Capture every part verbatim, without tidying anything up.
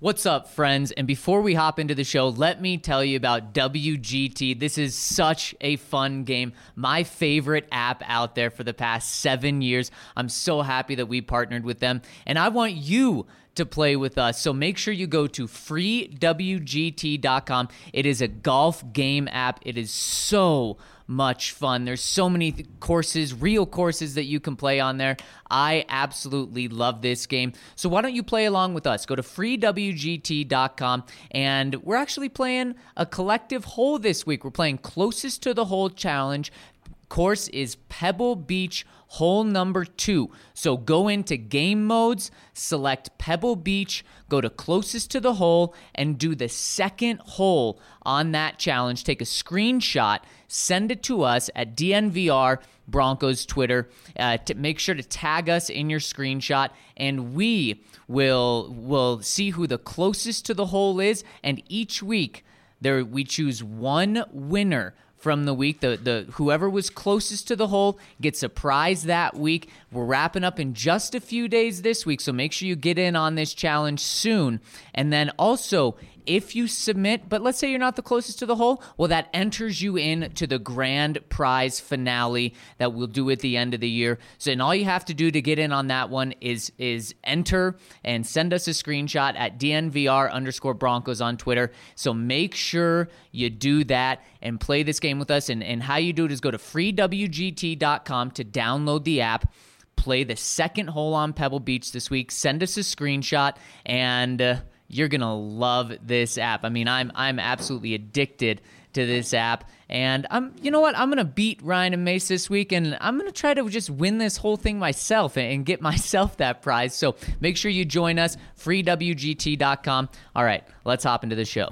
What's up, friends? And before we hop into the show, let me tell you about W G T. This is such a fun game. My favorite app out there for the past seven years. I'm so happy that we partnered with them. And I want you to play with us. So make sure you go to free w g t dot com. It is a golf game app. It is so much fun. There's so many th- courses, real courses that you can play on there. I absolutely love this game. So why don't you play along with us? Go to free w g t dot com, and we're actually playing a collective hole this week. We're playing Closest to the Hole Challenge. Course is Pebble Beach hole number two. So go into game modes, select Pebble Beach, go to Closest to the Hole, and do the second hole on that challenge. Take a screenshot, send it to us at D N V R Broncos Twitter. Uh, to make sure to tag us in your screenshot, and we will will see who the closest to the hole is. And each week, there we choose one winner from the week. The the whoever was closest to the hole gets a prize that week. We're wrapping up in just a few days this week, so make sure you get in on this challenge soon. And then also, if you submit, but let's say you're not the closest to the hole, well, that enters you in to the grand prize finale that we'll do at the end of the year. So, and all you have to do to get in on that one is is enter and send us a screenshot at D N V R underscore Broncos on Twitter. So make sure you do that and play this game with us. And, and how you do it is go to free w g t dot com to download the app. Play the second hole on Pebble Beach this week. Send us a screenshot, and uh, you're gonna love this app. I mean, I'm I'm absolutely addicted to this app, and I'm you know what? I'm gonna beat Ryan and Mace this week, and I'm gonna try to just win this whole thing myself and get myself that prize. So make sure you join us. free w g t dot com. All right, let's hop into the show.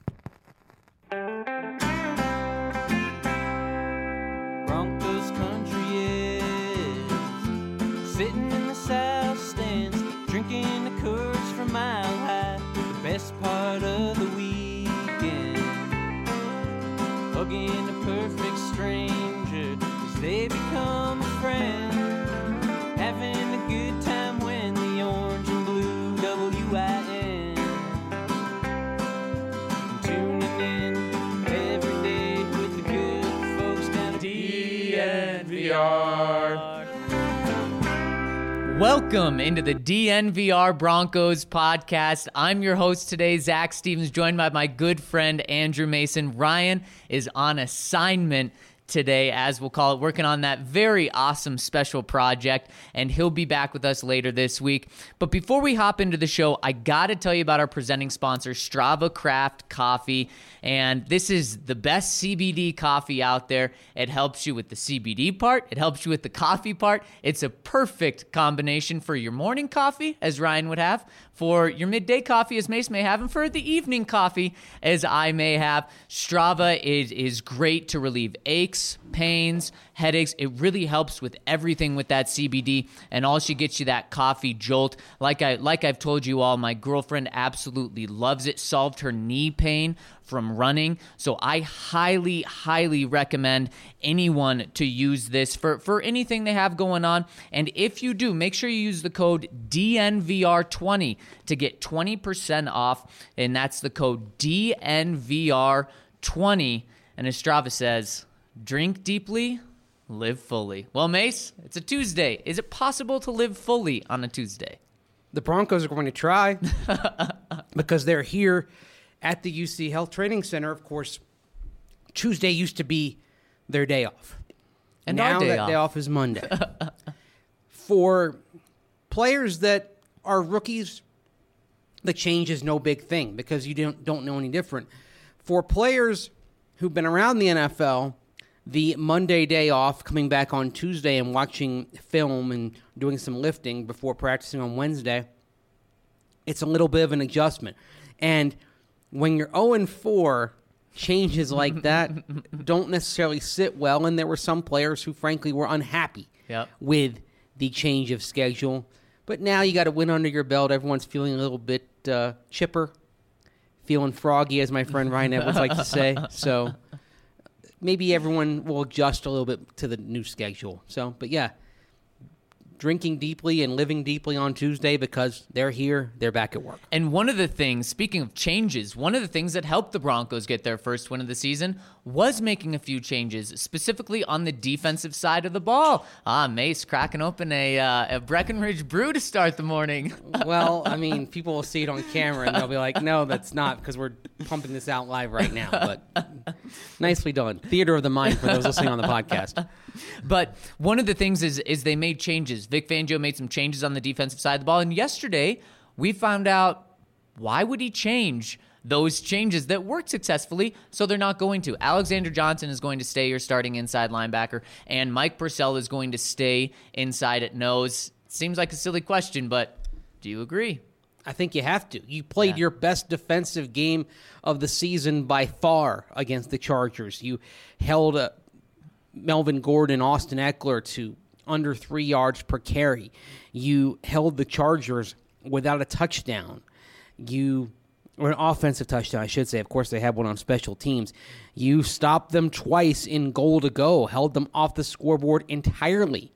Broncos country is sitting in the south stands, drinking the Coors from Mile High. The best part of the weekend, hugging a perfect stranger as they become a friend, having a good time when the orange and blue W I N, tuning in every day with the good folks down at D N V R. Welcome into the D N V R Broncos podcast. I'm your host today, Zach Stevens, joined by my good friend Andrew Mason. Ryan is on assignment today, as we'll call it, working on that very awesome special project, and he'll be back with us later this week. But before we hop into the show, I gotta tell you about our presenting sponsor, Strava Craft Coffee. And this is the best C B D coffee out there. It helps you with the C B D part. It helps you with the coffee part. It's a perfect combination for your morning coffee, as Ryan would have, for your midday coffee, as Mace may have, and for the evening coffee, as I may have. Strava is, is great to relieve aches, pains, headaches. It really helps with everything with that C B D, and also gets you that coffee jolt. Like, I, like I've told you all, my girlfriend absolutely loves it. Solved her knee pain from running. So I highly, highly recommend anyone to use this for, for anything they have going on. And if you do, make sure you use the code D N V R twenty to get twenty percent off. And that's the code D N V R twenty. And as Strava says, drink deeply, live fully. Well, Mace, it's a Tuesday. Is it possible to live fully on a Tuesday? The Broncos are going to try because they're here at the U C Health Training Center. Of course, Tuesday used to be their day off. And now our day that off. day off is Monday. For players that are rookies, the change is no big thing because you don't, don't know any different. For players who've been around the N F L, the Monday day off, coming back on Tuesday and watching film and doing some lifting before practicing on Wednesday, it's a little bit of an adjustment. And when you're oh and four, changes like that don't necessarily sit well, and there were some players who, frankly, were unhappy Yep. with the change of schedule. But now you got a win under your belt. Everyone's feeling a little bit uh, chipper, feeling froggy, as my friend Ryan Edwards likes to say. So maybe everyone will adjust a little bit to the new schedule. So, but yeah, drinking deeply and living deeply on Tuesday because they're here, they're back at work. And one of the things, speaking of changes, one of the things that helped the Broncos get their first win of the season was making a few changes, specifically on the defensive side of the ball. Ah, Mace cracking open a, uh, a Breckenridge brew to start the morning. Well, I mean, people will see it on camera and they'll be like, no, that's not, because we're pumping this out live right now. But nicely done. Theater of the mind for those listening on the podcast. But one of the things is is they made changes. Vic Fangio made some changes on the defensive side of the ball. And yesterday, we found out why would he change those changes that worked successfully, so they're not going to. Alexander Johnson is going to stay your starting inside linebacker, and Mike Purcell is going to stay inside at nose. Seems like a silly question, but do you agree? I think you have to. You played yeah. your best defensive game of the season by far against the Chargers. You held a Melvin Gordon, Austin Eckler to under three yards per carry. You held the Chargers without a touchdown. You, or an offensive touchdown, I should say. Of course, they had one on special teams. You stopped them twice in goal to go, held them off the scoreboard entirely.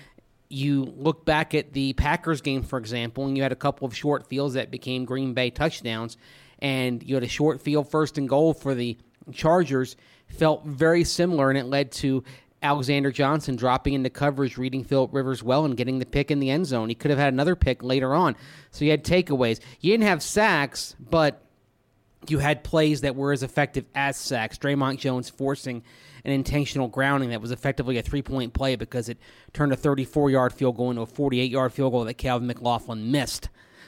You look back at the Packers game, for example, and you had a couple of short fields that became Green Bay touchdowns, and you had a short field first and goal for the Chargers. Felt very similar, and it led to Alexander Johnson dropping into coverage, reading Phillip Rivers well, and getting the pick in the end zone. He could have had another pick later on. So you had takeaways. You didn't have sacks, but you had plays that were as effective as sacks. Draymond Jones forcing an intentional grounding that was effectively a three-point play because it turned a thirty-four-yard field goal into a forty-eight-yard field goal that Calvin McLaughlin missed.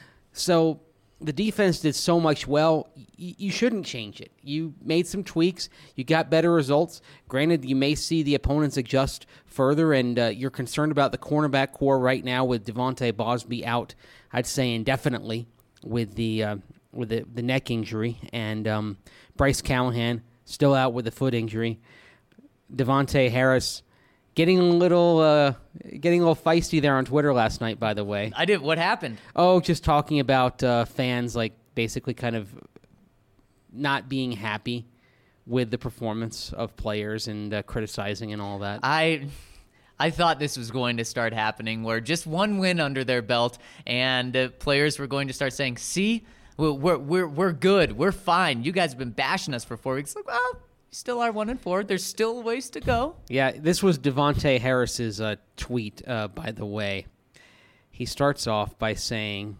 So the defense did so much well, y- you shouldn't change it. You made some tweaks. You got better results. Granted, you may see the opponents adjust further, and uh, you're concerned about the cornerback core right now with Devontae Bosby out, I'd say indefinitely, with the uh, with the, the neck injury, and um, Bryce Callahan still out with the foot injury. Devontae Harris getting a little uh, getting a little feisty there on Twitter last night, by the way. I did. What happened? Oh, just talking about uh, fans, like, basically kind of not being happy with the performance of players and uh, criticizing and all that. I I thought this was going to start happening, where just one win under their belt, and uh, players were going to start saying, see, we're, we're, we're, we're good. We're fine. You guys have been bashing us for four weeks. Like, well, still are one and four. There's still ways to go. Yeah, this was Devontae Harris's uh, tweet, uh, by the way. He starts off by saying,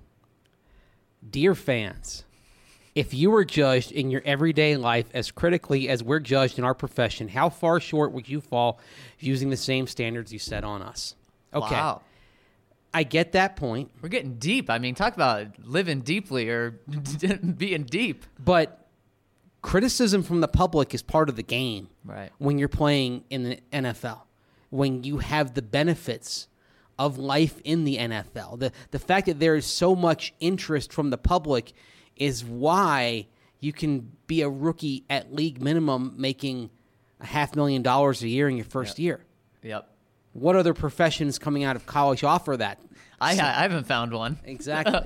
"Dear fans, if you were judged in your everyday life as critically as we're judged in our profession, how far short would you fall using the same standards you set on us?" Okay. Wow. I get that point. We're getting deep. I mean, talk about living deeply or being deep. But criticism from the public is part of the game. Right. When you're playing in the N F L, when you have the benefits of life in the N F L. The the fact that there is so much interest from the public is why you can be a rookie at league minimum making a half million dollars a year in your first Yep. year. Yep. What other professions coming out of college offer that? I, So- I haven't found one. Exactly.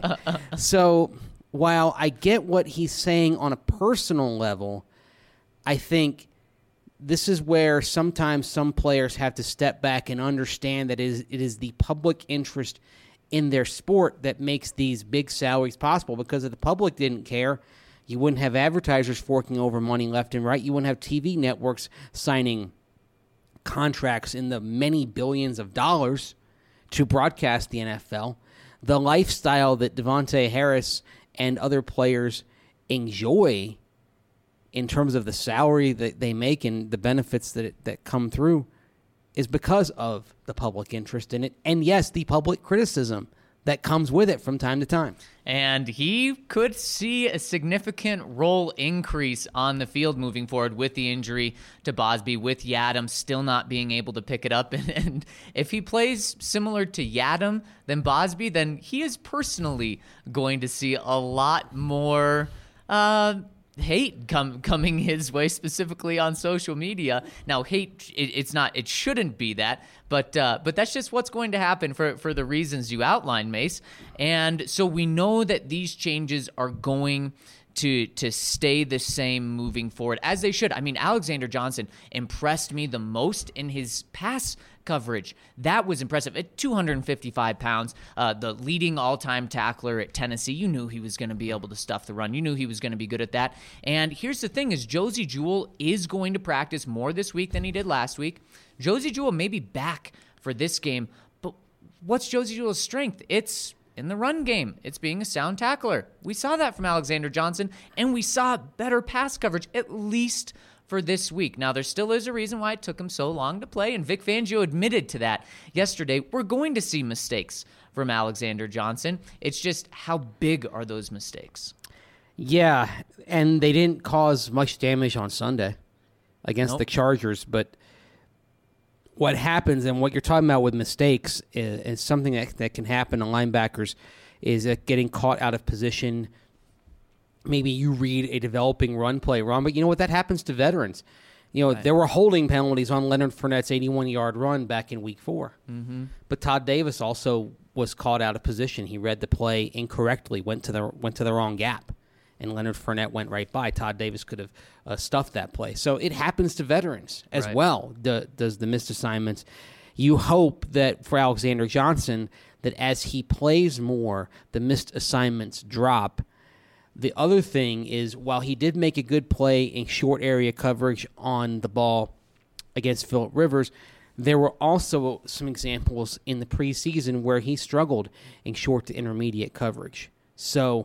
So while I get what he's saying on a personal level, I think this is where sometimes some players have to step back and understand that it is, it is the public interest in their sport that makes these big salaries possible. Because if the public didn't care, you wouldn't have advertisers forking over money left and right. You wouldn't have T V networks signing contracts in the many billions of dollars to broadcast the N F L. The lifestyle that Devontae Harris and other players enjoy in terms of the salary that they make and the benefits that that come through is because of the public interest in it. And yes, the public criticism that comes with it from time to time. And he could see a significant role increase on the field moving forward with the injury to Bosby, with Yadam still not being able to pick it up. And, and if he plays similar to Yadam than Bosby, then he is personally going to see a lot more uh, hate come, coming his way, specifically on social media. Now, hate, it, it's not, it shouldn't be that, but uh, but that's just what's going to happen for, for the reasons you outlined, Mace. And so we know that these changes are going to to stay the same moving forward, as they should. I mean, Alexander Johnson impressed me the most in his pass coverage. That was impressive. At two hundred fifty-five pounds, uh, the leading all-time tackler at Tennessee, you knew he was going to be able to stuff the run. You knew he was going to be good at that. And here's the thing is Josey Jewell is going to practice more this week than he did last week. Josey Jewell may be back for this game, but what's Josey Jewell's strength? It's in the run game. It's being a sound tackler. We saw that from Alexander Johnson, and we saw better pass coverage, at least for this week. Now, there still is a reason why it took him so long to play, and Vic Fangio admitted to that yesterday. We're going to see mistakes from Alexander Johnson. It's just how big are those mistakes? Yeah, and they didn't cause much damage on Sunday against Nope. the Chargers, but what happens and what you're talking about with mistakes is, is something that, that can happen to linebackers is uh, getting caught out of position. Maybe you read a developing run play wrong, but you know what? That happens to veterans. You know, Right. there were holding penalties on Leonard Fournette's eighty-one-yard run back in week four. Mm-hmm. But Todd Davis also was caught out of position. He read the play incorrectly, went to the went to the wrong gap, and Leonard Fournette went right by. Todd Davis could have uh, stuffed that play. So it happens to veterans as Right. well, the, does the missed assignments. You hope that for Alexander Johnson, that as he plays more, the missed assignments drop. The other thing is, while he did make a good play in short area coverage on the ball against Phillip Rivers, there were also some examples in the preseason where he struggled in short to intermediate coverage. So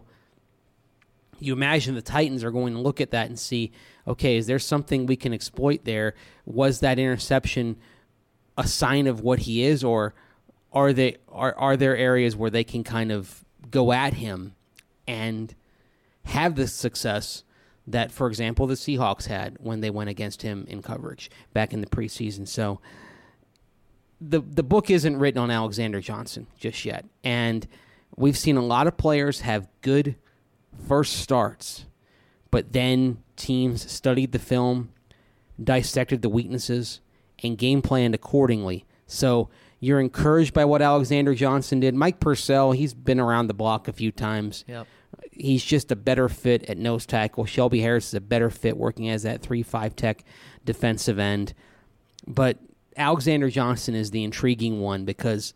you imagine the Titans are going to look at that and see, okay, is there something we can exploit there? Was that interception a sign of what he is, or are they are are there areas where they can kind of go at him and have the success that, for example, the Seahawks had when they went against him in coverage back in the preseason? So the the book isn't written on Alexander Johnson just yet, and we've seen a lot of players have good first starts, but then teams studied the film, dissected the weaknesses, and game planned accordingly. So you're encouraged by what Alexander Johnson did. Mike Purcell, he's been around the block a few times. Yep. He's just a better fit at nose tackle. Shelby Harris is a better fit working as that three five tech defensive end. But Alexander Johnson is the intriguing one because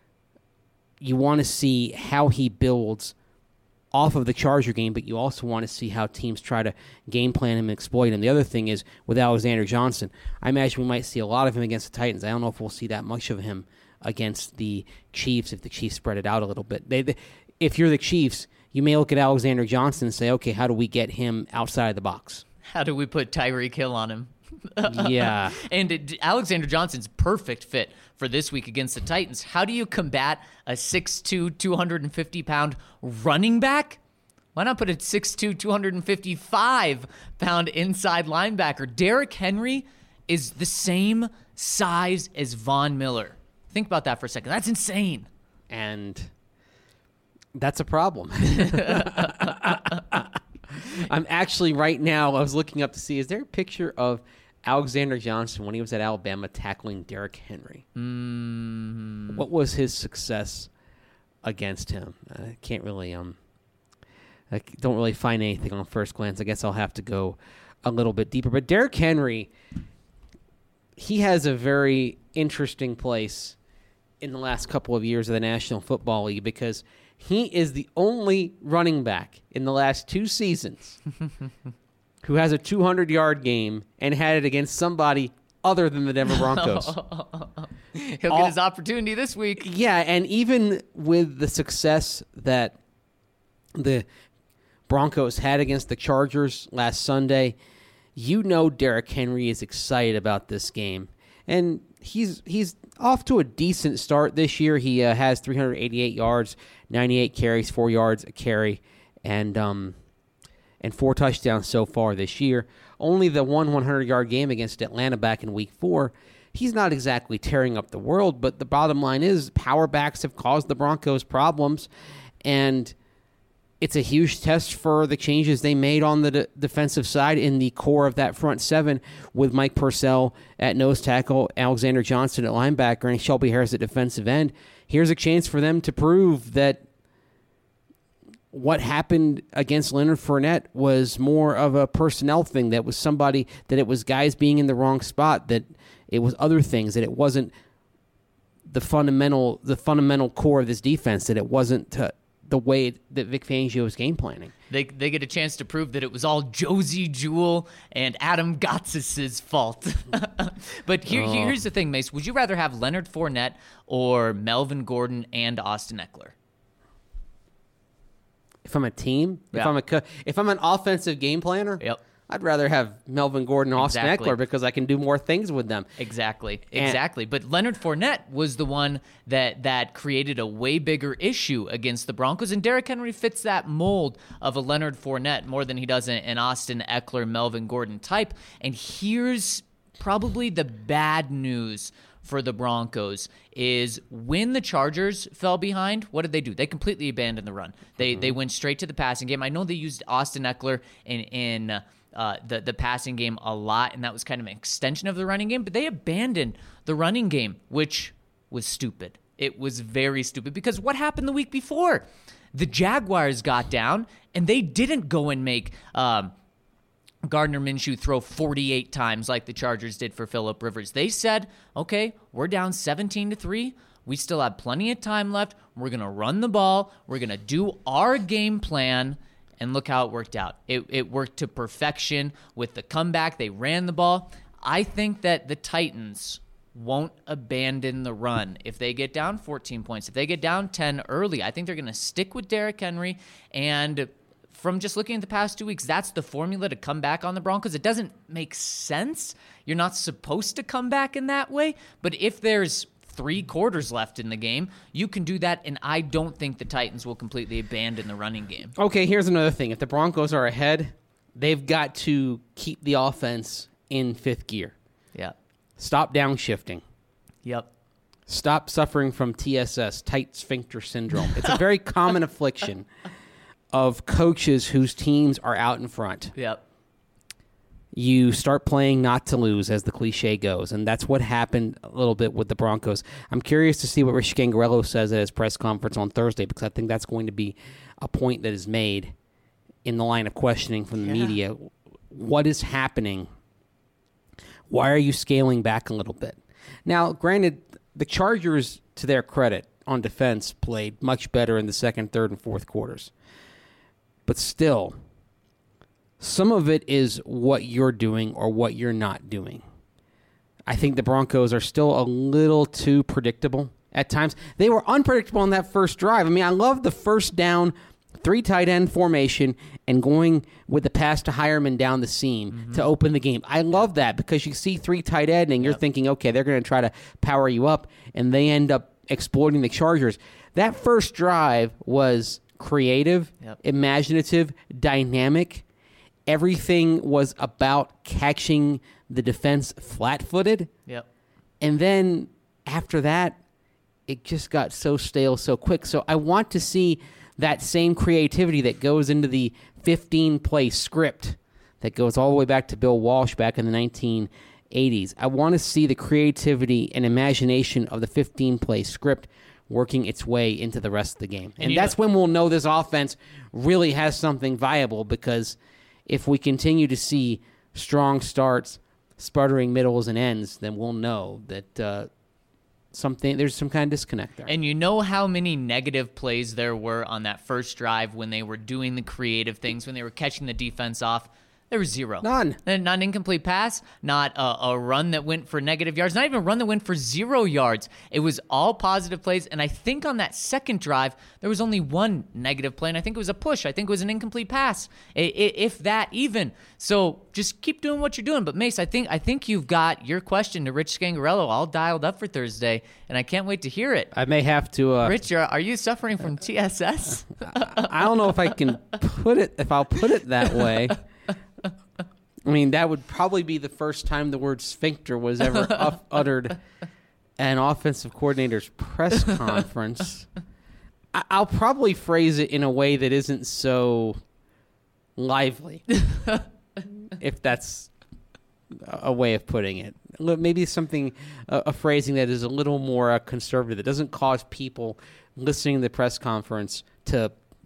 you want to see how he builds off of the Charger game, but you also want to see how teams try to game plan him and exploit him. The other thing is, with Alexander Johnson, I imagine we might see a lot of him against the Titans. I don't know if we'll see that much of him against the Chiefs if the Chiefs spread it out a little bit. They, they, if you're the Chiefs, you may look at Alexander Johnson and say, okay, how do we get him outside of the box? How do we put Tyreek Hill on him? Yeah. And it, Alexander Johnson's perfect fit for this week against the Titans. How do you combat a six two, two hundred fifty pound running back? Why not put a six two, two hundred fifty-five pound inside linebacker? Derrick Henry is the same size as Von Miller. Think about that for a second. That's insane. And that's a problem. I'm actually right now, I was looking up to see, is there a picture of Alexander Johnson when he was at Alabama tackling Derrick Henry? Mm. What was his success against him? I can't really, um, I don't really find anything on first glance. I guess I'll have to go a little bit deeper. But Derrick Henry, he has a very interesting place in the last couple of years of the National Football League because he is the only running back in the last two seasons who has a two hundred yard game and had it against somebody other than the Denver Broncos. He'll All- get his opportunity this week. Yeah, and even with the success that the Broncos had against the Chargers last Sunday, you know Derrick Henry is excited about this game. And he's he's off to a decent start this year. He uh, has three hundred eighty-eight yards, ninety-eight carries, four yards a carry, and um and four touchdowns so far this year. Only the one hundred yard game against Atlanta back in week four. He's not exactly tearing up the world, but the bottom line is power backs have caused the Broncos problems, and it's a huge test for the changes they made on the de- defensive side in the core of that front seven with Mike Purcell at nose tackle, Alexander Johnson at linebacker, and Shelby Harris at defensive end. Here's a chance for them to prove that what happened against Leonard Fournette was more of a personnel thing. That was somebody, that it was guys being in the wrong spot, that it was other things, that it wasn't the fundamental the fundamental core of this defense, that it wasn't uh, the way that Vic Fangio was game planning. They they get a chance to prove that it was all Josie Jewell and Adam Gotsis' fault. But here, Oh. here's the thing, Mace. Would you rather have Leonard Fournette or Melvin Gordon and Austin Eckler? If I'm a team, if Yeah. I'm a co- if I'm an offensive game planner, Yep. I'd rather have Melvin Gordon and Austin Exactly. Eckler because I can do more things with them. Exactly, And- exactly. But Leonard Fournette was the one that that created a way bigger issue against the Broncos, and Derrick Henry fits that mold of a Leonard Fournette more than he does an, an Austin Eckler, Melvin Gordon type. And here's probably the bad news for the Broncos is when the Chargers fell behind, what did they do? They completely abandoned the run. They they went straight to the passing game. I know they used Austin Eckler in in uh, the the passing game a lot, and that was kind of an extension of the running game. But they abandoned the running game, which was stupid. It was very stupid because what happened the week before? The Jaguars got down, and they didn't go and make Um, Gardner Minshew throw forty-eight times like the Chargers did for Phillip Rivers. They said, okay, we're down seventeen to three. We still have plenty of time left. We're going to run the ball. We're going to do our game plan. And look how it worked out. It, it worked to perfection with the comeback. They ran the ball. I think that the Titans won't abandon the run if they get down fourteen points. If they get down ten early, I think they're going to stick with Derrick Henry. And from just looking at the past two weeks, that's the formula to come back on the Broncos. It doesn't make sense. You're not supposed to come back in that way. But if there's three quarters left in the game, you can do that, and I don't think the Titans will completely abandon the running game. Okay, here's another thing. If the Broncos are ahead, they've got to keep the offense in fifth gear. Yeah. Stop downshifting. Yep. Stop suffering from T S S, tight sphincter syndrome. It's a very common affliction of coaches whose teams are out in front. Yep. You start playing not to lose, as the cliche goes, and that's what happened a little bit with the Broncos. I'm curious to see what Rich Gangarello says at his press conference on Thursday, because I think that's going to be a point that is made in the line of questioning from the Yeah. media. What is happening? Why are you scaling back a little bit? Now, granted, the Chargers, to their credit, on defense, played much better in the second, third, and fourth quarters. But still, some of it is what you're doing or what you're not doing. I think the Broncos are still a little too predictable at times. They were unpredictable on that first drive. I mean, I love the first down, three tight end formation, and going with the pass to Hireman down the seam mm-hmm. to open the game. I love that because you see three tight end and you're yep. thinking, okay, they're going to try to power you up, and they end up exploiting the Chargers. That first drive was creative, yep. imaginative, dynamic. Everything was about catching the defense flat-footed. Yep. And then after that, it just got so stale so quick. So I want to see that same creativity that goes into the fifteen-play script that goes all the way back to Bill Walsh back in the nineteen eighties. I want to see the creativity and imagination of the fifteen-play script working its way into the rest of the game. And, and that's know, when we'll know this offense really has something viable, because if we continue to see strong starts, sputtering middles and ends, then we'll know that uh, something there's some kind of disconnect there. And you know how many negative plays there were on that first drive when they were doing the creative things, when they were catching the defense off? There was zero. None. Not an incomplete pass, not a, a run that went for negative yards, not even a run that went for zero yards. It was all positive plays, and I think on that second drive, there was only one negative play, and I think it was a push. I think it was an incomplete pass, if that even. So just keep doing what you're doing. But, Mace, I think I think you've got your question to Rich Scangarello all dialed up for Thursday, and I can't wait to hear it. I may have to... Uh, Rich, are you suffering from T S S? I, I don't know if I can put it, if I'll put it that way. I mean, that would probably be the first time the word sphincter was ever up, uttered at an offensive coordinator's press conference. I, I'll probably phrase it in a way that isn't so lively, if that's a way of putting it. Maybe something, a, a phrasing that is a little more uh, conservative, that doesn't cause people listening to the press conference to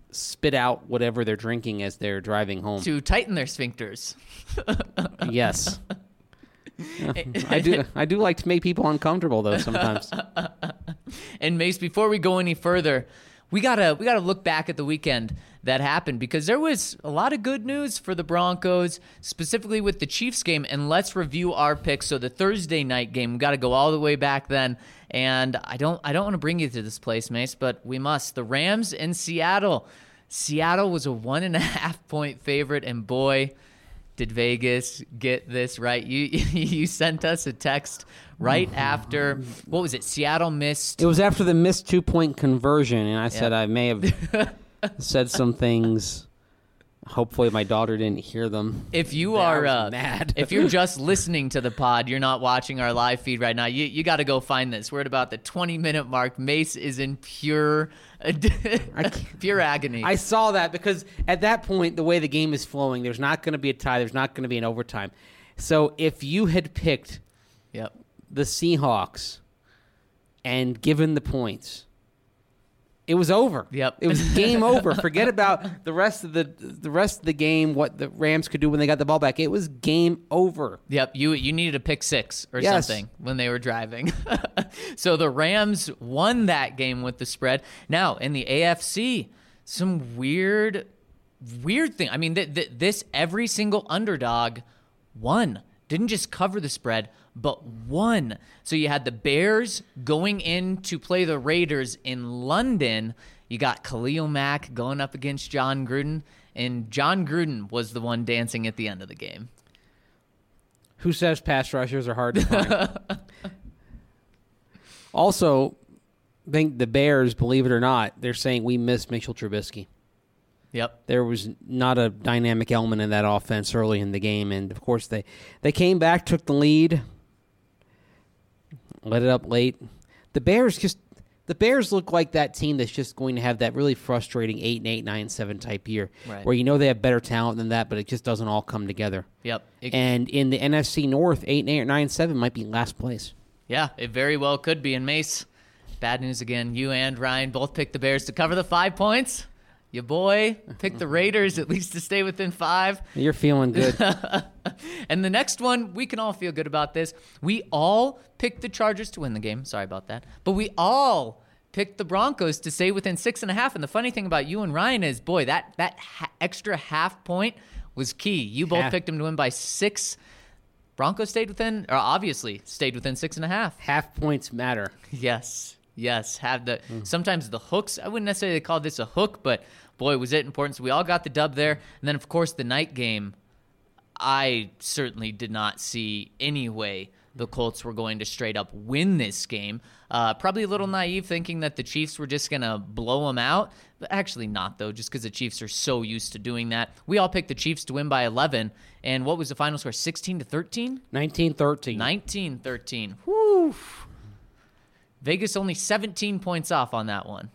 spit out whatever they're drinking as they're driving home. To tighten their sphincters. Yes. Yeah, I do I do like to make people uncomfortable, though, sometimes. And Mace, before we go any further, we gotta we gotta look back at the weekend that happened, because there was a lot of good news for the Broncos, specifically with the Chiefs game. And let's review our picks. So the Thursday night game, we got to go all the way back then. And I don't I don't want to bring you to this place, Mace, but we must. The Rams in Seattle. Seattle was a one and a half point favorite, and boy, did Vegas get this right. You you sent us a text right after, what was it, Seattle missed. It was after the missed two-point conversion, and I said, yep. I may have said some things. Hopefully my daughter didn't hear them. If you They are are uh, mad. if you're just listening to the pod, you're not watching our live feed right now, you you got to go find this. We're at about the twenty-minute mark. Mace is in pure pure agony. I saw that because at that point, the way the game is flowing, there's not going to be a tie. There's not going to be an overtime. So if you had picked yep. the Seahawks and given the points, it was over. Yep. It was game over. Forget about the rest of the the rest of the game, what the Rams could do when they got the ball back. It was game over. Yep, you you needed a pick six or Yes. something when they were driving. So the Rams won that game with the spread. Now, in the A F C, some weird, weird thing. I mean, th- th- this every single underdog won. Didn't just cover the spread, but won. So you had the Bears going in to play the Raiders in London. You got Khalil Mack going up against John Gruden, and John Gruden was the one dancing at the end of the game. Who says pass rushers are hard to find? Also, I think the Bears, believe it or not, they're saying we miss Mitchell Trubisky. Yep. There was not a dynamic element in that offense early in the game, and of course they, they came back, took the lead, let it up late. The Bears just the Bears look like that team that's just going to have that really frustrating eight and eight, nine and seven type year, Right. where you know they have better talent than that, but it just doesn't all come together. Yep. It- And in the N F C North, eight and eight or nine and seven might be last place. Yeah, it very well could be. And Mace, bad news again. You and Ryan both picked the Bears to cover the five points. Your boy picked the Raiders at least to stay within five. You're feeling good. And the next one, we can all feel good about this. We all picked the Chargers to win the game. Sorry about that. But we all picked the Broncos to stay within six and a half. And the funny thing about you and Ryan is, boy, that, that ha- extra half point was key. You both Half. picked them to win by six. Broncos stayed within, or obviously stayed within six and a half. Half points matter. Yes, yes. Have the sometimes the hooks. I wouldn't necessarily call this a hook, but boy, was it important. So we all got the dub there, and then of course the night game. I certainly did not see any way the Colts were going to straight up win this game. Uh, probably a little naive thinking that the Chiefs were just going to blow them out. But actually not, though, just because the Chiefs are so used to doing that. We all picked the Chiefs to win by eleven. And what was the final score, sixteen to thirteen? nineteen thirteen. nineteen thirteen. Whew. Vegas only seventeen points off on that one.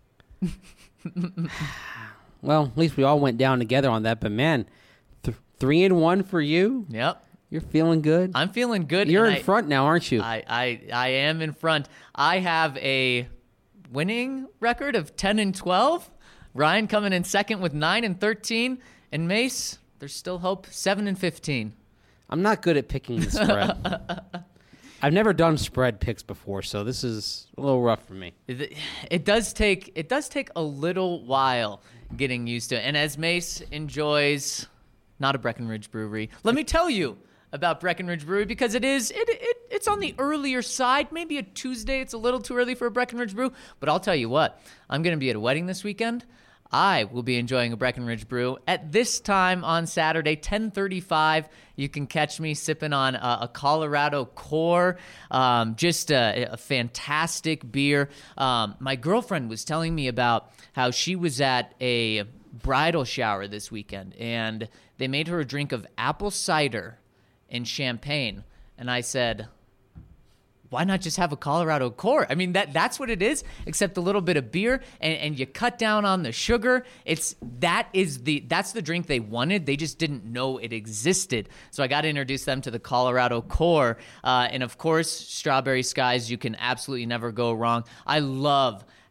Well, at least we all went down together on that. But, man, th- three and one for you? Yep. You're feeling good? I'm feeling good. You're and in I- front now, aren't you? I, I I am in front. I have a winning record of ten and twelve. Ryan coming in second with nine and thirteen. And Mace, there's still hope, seven and fifteen. I'm not good at picking the spread. I've never done spread picks before, so this is a little rough for me. It, it does take it does take a little while getting used to it. And as Mace enjoys not a Breckenridge brewery, let me tell you about Breckenridge Brewery, because it is it, it it's on the earlier side. Maybe a Tuesday, it's a little too early for a Breckenridge brew, but I'll tell you what, I'm going to be at a wedding this weekend. I will be enjoying a Breckenridge brew at this time on Saturday, ten thirty-five. You can catch me sipping on a, a Colorado Core, um, just a, a fantastic beer. Um, my girlfriend was telling me about how she was at a bridal shower this weekend, and they made her a drink of apple cider and champagne. And I said, why not just have a Colorado Core? I mean, that that's what it is, except a little bit of beer, and, and you cut down on the sugar. It's that is the that's the drink they wanted. They just didn't know it existed. So I got to introduce them to the Colorado Core, uh, and of course, Strawberry Skies. You can absolutely never go wrong. I love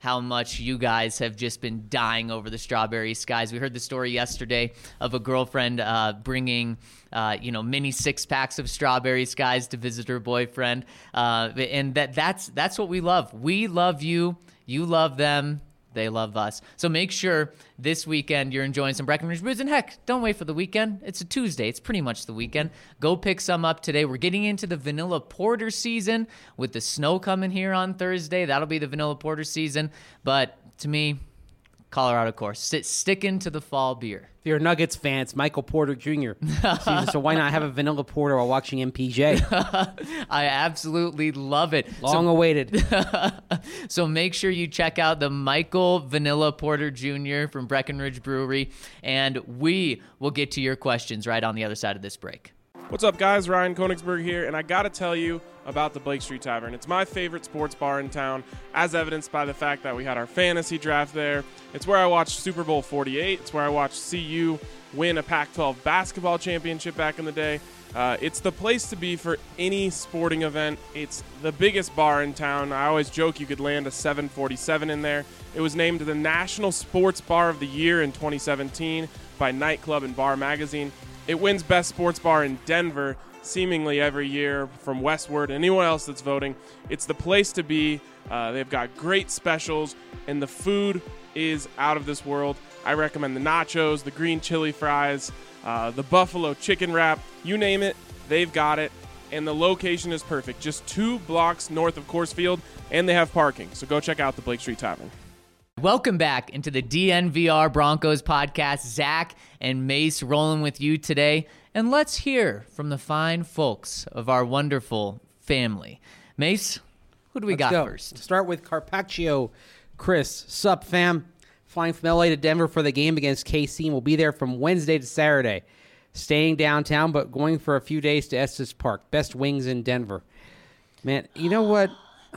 how much you guys have just been dying over the Strawberry Skies. We heard the story yesterday of a girlfriend uh, bringing, uh, you know, mini six packs of Strawberry Skies to visit her boyfriend, uh, and that that's that's what we love. We love you. You love them. They love us. So make sure this weekend you're enjoying some Breckenridge Brews. And heck, don't wait for the weekend. It's a Tuesday. It's pretty much the weekend. Go pick some up today. We're getting into the vanilla porter season with the snow coming here on Thursday. That'll be the vanilla porter season. But to me, Colorado, of course, Sit, sticking to the fall beer. If you're a Nuggets fan, it's Michael Porter Junior season, so why not have a vanilla porter while watching M P J? I absolutely love it. Long so, awaited. So make sure you check out the Michael Vanilla Porter Junior from Breckenridge Brewery, and we will get to your questions right on the other side of this break. What's up, guys? Ryan Koenigsberg here, and I got to tell you about the Blake Street Tavern. It's my favorite sports bar in town, as evidenced by the fact that we had our fantasy draft there. It's where I watched Super Bowl forty-eight. It's where I watched C U win a Pac twelve basketball championship back in the day. Uh, it's the place to be for any sporting event. It's the biggest bar in town. I always joke you could land a seven forty-seven in there. It was named the National Sports Bar of the Year in twenty seventeen by Nightclub and Bar Magazine. It wins Best Sports Bar in Denver seemingly every year from Westward. Anyone else that's voting, it's the place to be. Uh, they've got great specials, and the food is out of this world. I recommend the nachos, the green chili fries, uh, the buffalo chicken wrap. You name it, they've got it. And the location is perfect. Just two blocks north of Coors Field, and they have parking. So go check out the Blake Street Tavern. Welcome back into the D N V R Broncos podcast. Zach and Mace rolling with you today. And let's hear from the fine folks of our wonderful family. Mace, who do we Let's got go. first? Start with Carpaccio Chris. Sup, fam? Flying from L A to Denver for the game against K C, and we'll be there from Wednesday to Saturday. Staying downtown, but going for a few days to Estes Park. Best wings in Denver. Man, you know what?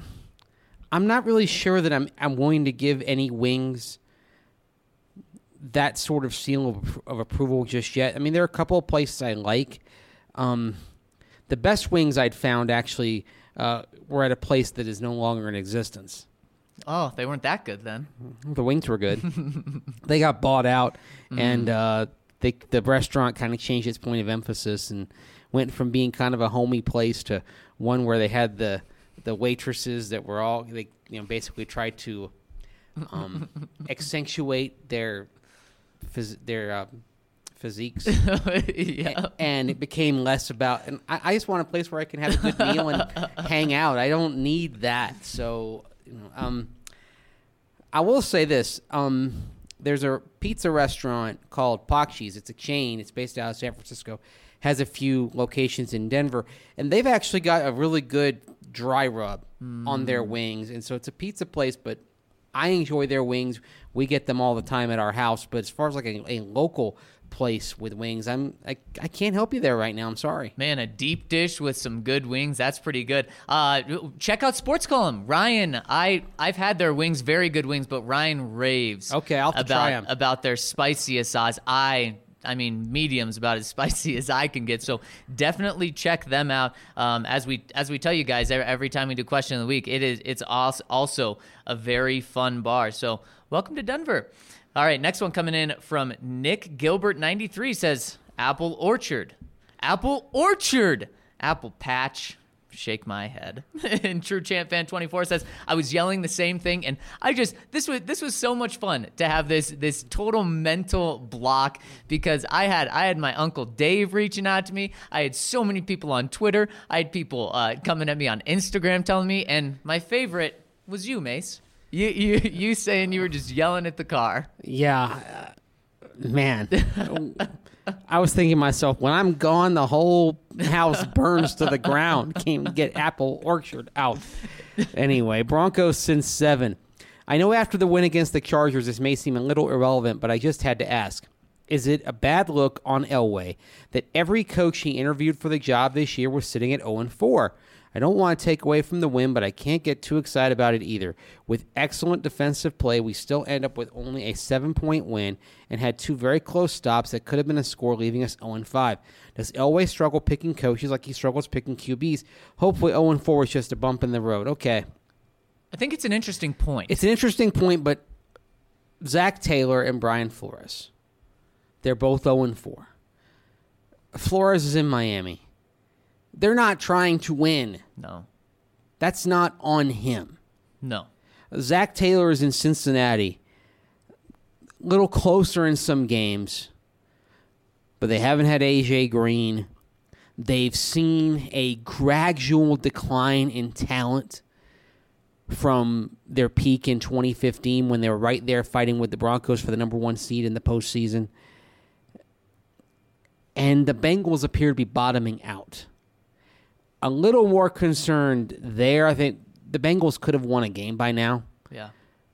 I'm not really sure that I'm I'm willing to give any wings that sort of seal of, of approval just yet. I mean, there are a couple of places I like. Um, the best wings I'd found actually uh, were at a place that is no longer in existence. Oh, they weren't that good then. The wings were good. They got bought out, mm. and uh, they, the restaurant kind of changed its point of emphasis and went from being kind of a homey place to one where they had the the waitresses that were all, they you know basically tried to um, accentuate their phys- their uh, physiques, yeah. a- and it became less about. And I, I just want a place where I can have a good meal and hang out. I don't need that. So, you know, um, I will say this: um, there's a pizza restaurant called Pakshi's. It's a chain. It's based out of San Francisco. Has a few locations in Denver, and they've actually got a really good dry rub mm. on their wings. And so it's a pizza place, but I enjoy their wings. We get them all the time at our house. But as far as like a, a local place with wings, I'm I, I can't help you there right now. I'm sorry. Man, a deep dish with some good wings. That's pretty good. Uh, check out Sports Column. Ryan, I, I've had their wings, very good wings, but Ryan raves okay, I'll have to about, try them. about their spiciest sauce. I... I mean, medium's about as spicy as I can get. So definitely check them out. Um, as we as we tell you guys every time we do Question of the Week, it is it's also a very fun bar. So welcome to Denver. All right, next one coming in from Nick Gilbert ninety-three says Apple Orchard, Apple Orchard, Apple Patch. Shake my head. And True Champ Fan twenty-four says, I was yelling the same thing, and I just this was this was so much fun to have this this total mental block because I had I had my Uncle Dave reaching out to me. I had so many people on Twitter. I had people uh, coming at me on Instagram telling me, and my favorite was you, Mace. You you you saying you were just yelling at the car. Yeah, uh, man. I was thinking to myself, when I'm gone, the whole house burns to the ground. Can't get Apple Orchard out. Anyway, Broncos since seven. I know after the win against the Chargers, this may seem a little irrelevant, but I just had to ask. Is it a bad look on Elway that every coach he interviewed for the job this year was sitting at oh and four? I don't want to take away from the win, but I can't get too excited about it either. With excellent defensive play, we still end up with only a seven-point win and had two very close stops that could have been a score, leaving us oh and five. Does Elway struggle picking coaches like he struggles picking Q Bs? Hopefully oh and four is just a bump in the road. Okay. I think it's an interesting point. It's an interesting point, but Zach Taylor and Brian Flores, they're both oh and four. Flores is in Miami. They're not trying to win. No. That's not on him. No. Zach Taylor is in Cincinnati. A little closer in some games, but they haven't had A J Green. They've seen a gradual decline in talent from their peak in twenty fifteen when they were right there fighting with the Broncos for the number one seed in the postseason. And the Bengals appear to be bottoming out. A little more concerned there. I think the Bengals could have won a game by now. Yeah.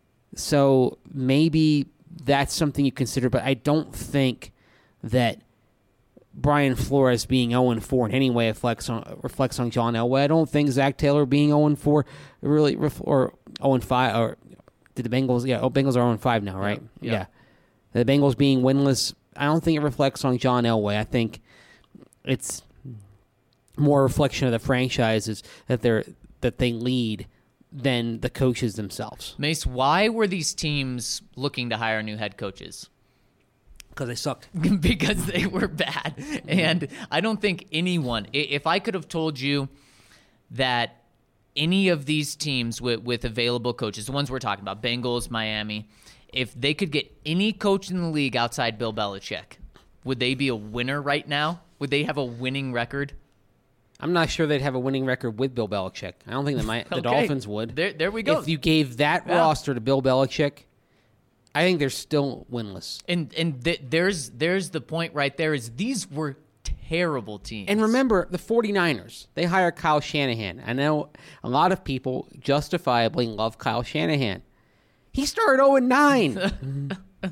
So maybe that's something you consider, but I don't think that Brian Flores being oh and four in any way reflects on, reflects on John Elway. I don't think Zach Taylor being oh and four really, ref, or oh and five, or did the Bengals, yeah, oh, Bengals are oh and five now, right? Yeah. yeah. The Bengals being winless, I don't think it reflects on John Elway. I think it's more a reflection of the franchises that they're that they lead than the coaches themselves. Mace, why were these teams looking to hire new head coaches? Because they sucked. Because they were bad. And I don't think anyone, if I could have told you that any of these teams with, with available coaches, the ones we're talking about, Bengals, Miami, if they could get any coach in the league outside Bill Belichick, would they be a winner right now? Would they have a winning record? I'm not sure they'd have a winning record with Bill Belichick. I don't think the, the okay. Dolphins would. There, there we go. If you gave that yeah. roster to Bill Belichick, I think they're still winless. And and th- there's there's the point right there is these were terrible teams. And remember, the 49ers, they hire Kyle Shanahan. I know a lot of people justifiably love Kyle Shanahan. He started oh and nine.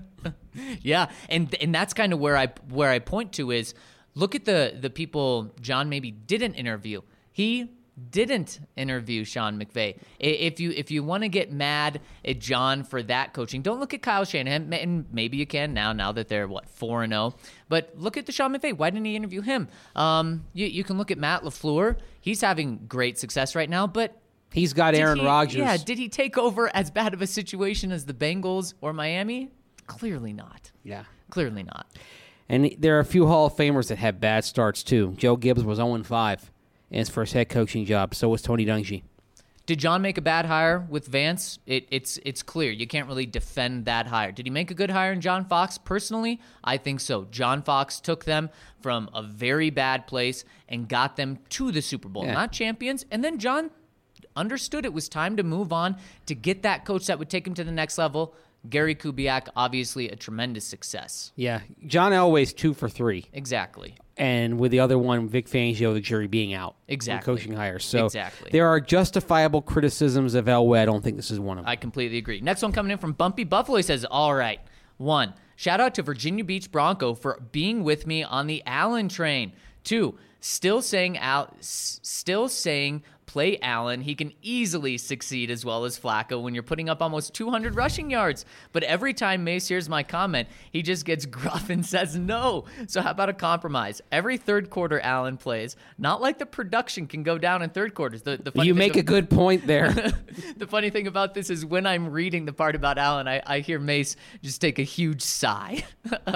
Yeah, and and that's kind of where I where I point to is look at the the people John maybe didn't interview. He didn't interview Sean McVay. If you if you want to get mad at John for that coaching, don't look at Kyle Shanahan, and maybe you can now, now that they're, what, four and oh. But look at the Sean McVay. Why didn't he interview him? Um, you, you can look at Matt LaFleur. He's having great success right now, but he's got Aaron he, Rodgers. Yeah, did he take over as bad of a situation as the Bengals or Miami? Clearly not. Yeah. Clearly not. And there are a few Hall of Famers that have bad starts, too. Joe Gibbs was oh and five. In his first head coaching job. So was Tony Dungy. Did John make a bad hire with Vance? It, it's it's clear. You can't really defend that hire. Did he make a good hire in John Fox? Personally, I think so. John Fox took them from a very bad place and got them to the Super Bowl. Yeah. Not champions. And then John understood it was time to move on to get that coach that would take him to the next level. Gary Kubiak, obviously a tremendous success. Yeah. John Elway's two for three. Exactly. And with the other one, Vic Fangio, the jury being out. Exactly. Coaching hires. So exactly. There are justifiable criticisms of Elway. I don't think this is one of them. I completely agree. Next one coming in from Bumpy Buffalo. He says, all right. One, shout out to Virginia Beach Bronco for being with me on the Allen train. Two, still saying Al, still saying play Allen. He can easily succeed as well as Flacco when you're putting up almost two hundred rushing yards. But every time Mace hears my comment, he just gets gruff and says no. So how about a compromise? Every third quarter Allen plays. Not like the production can go down in third quarters. The, the funny you thing make of, a good point there. The funny thing about this is when I'm reading the part about Allen, I, I hear Mace just take a huge sigh.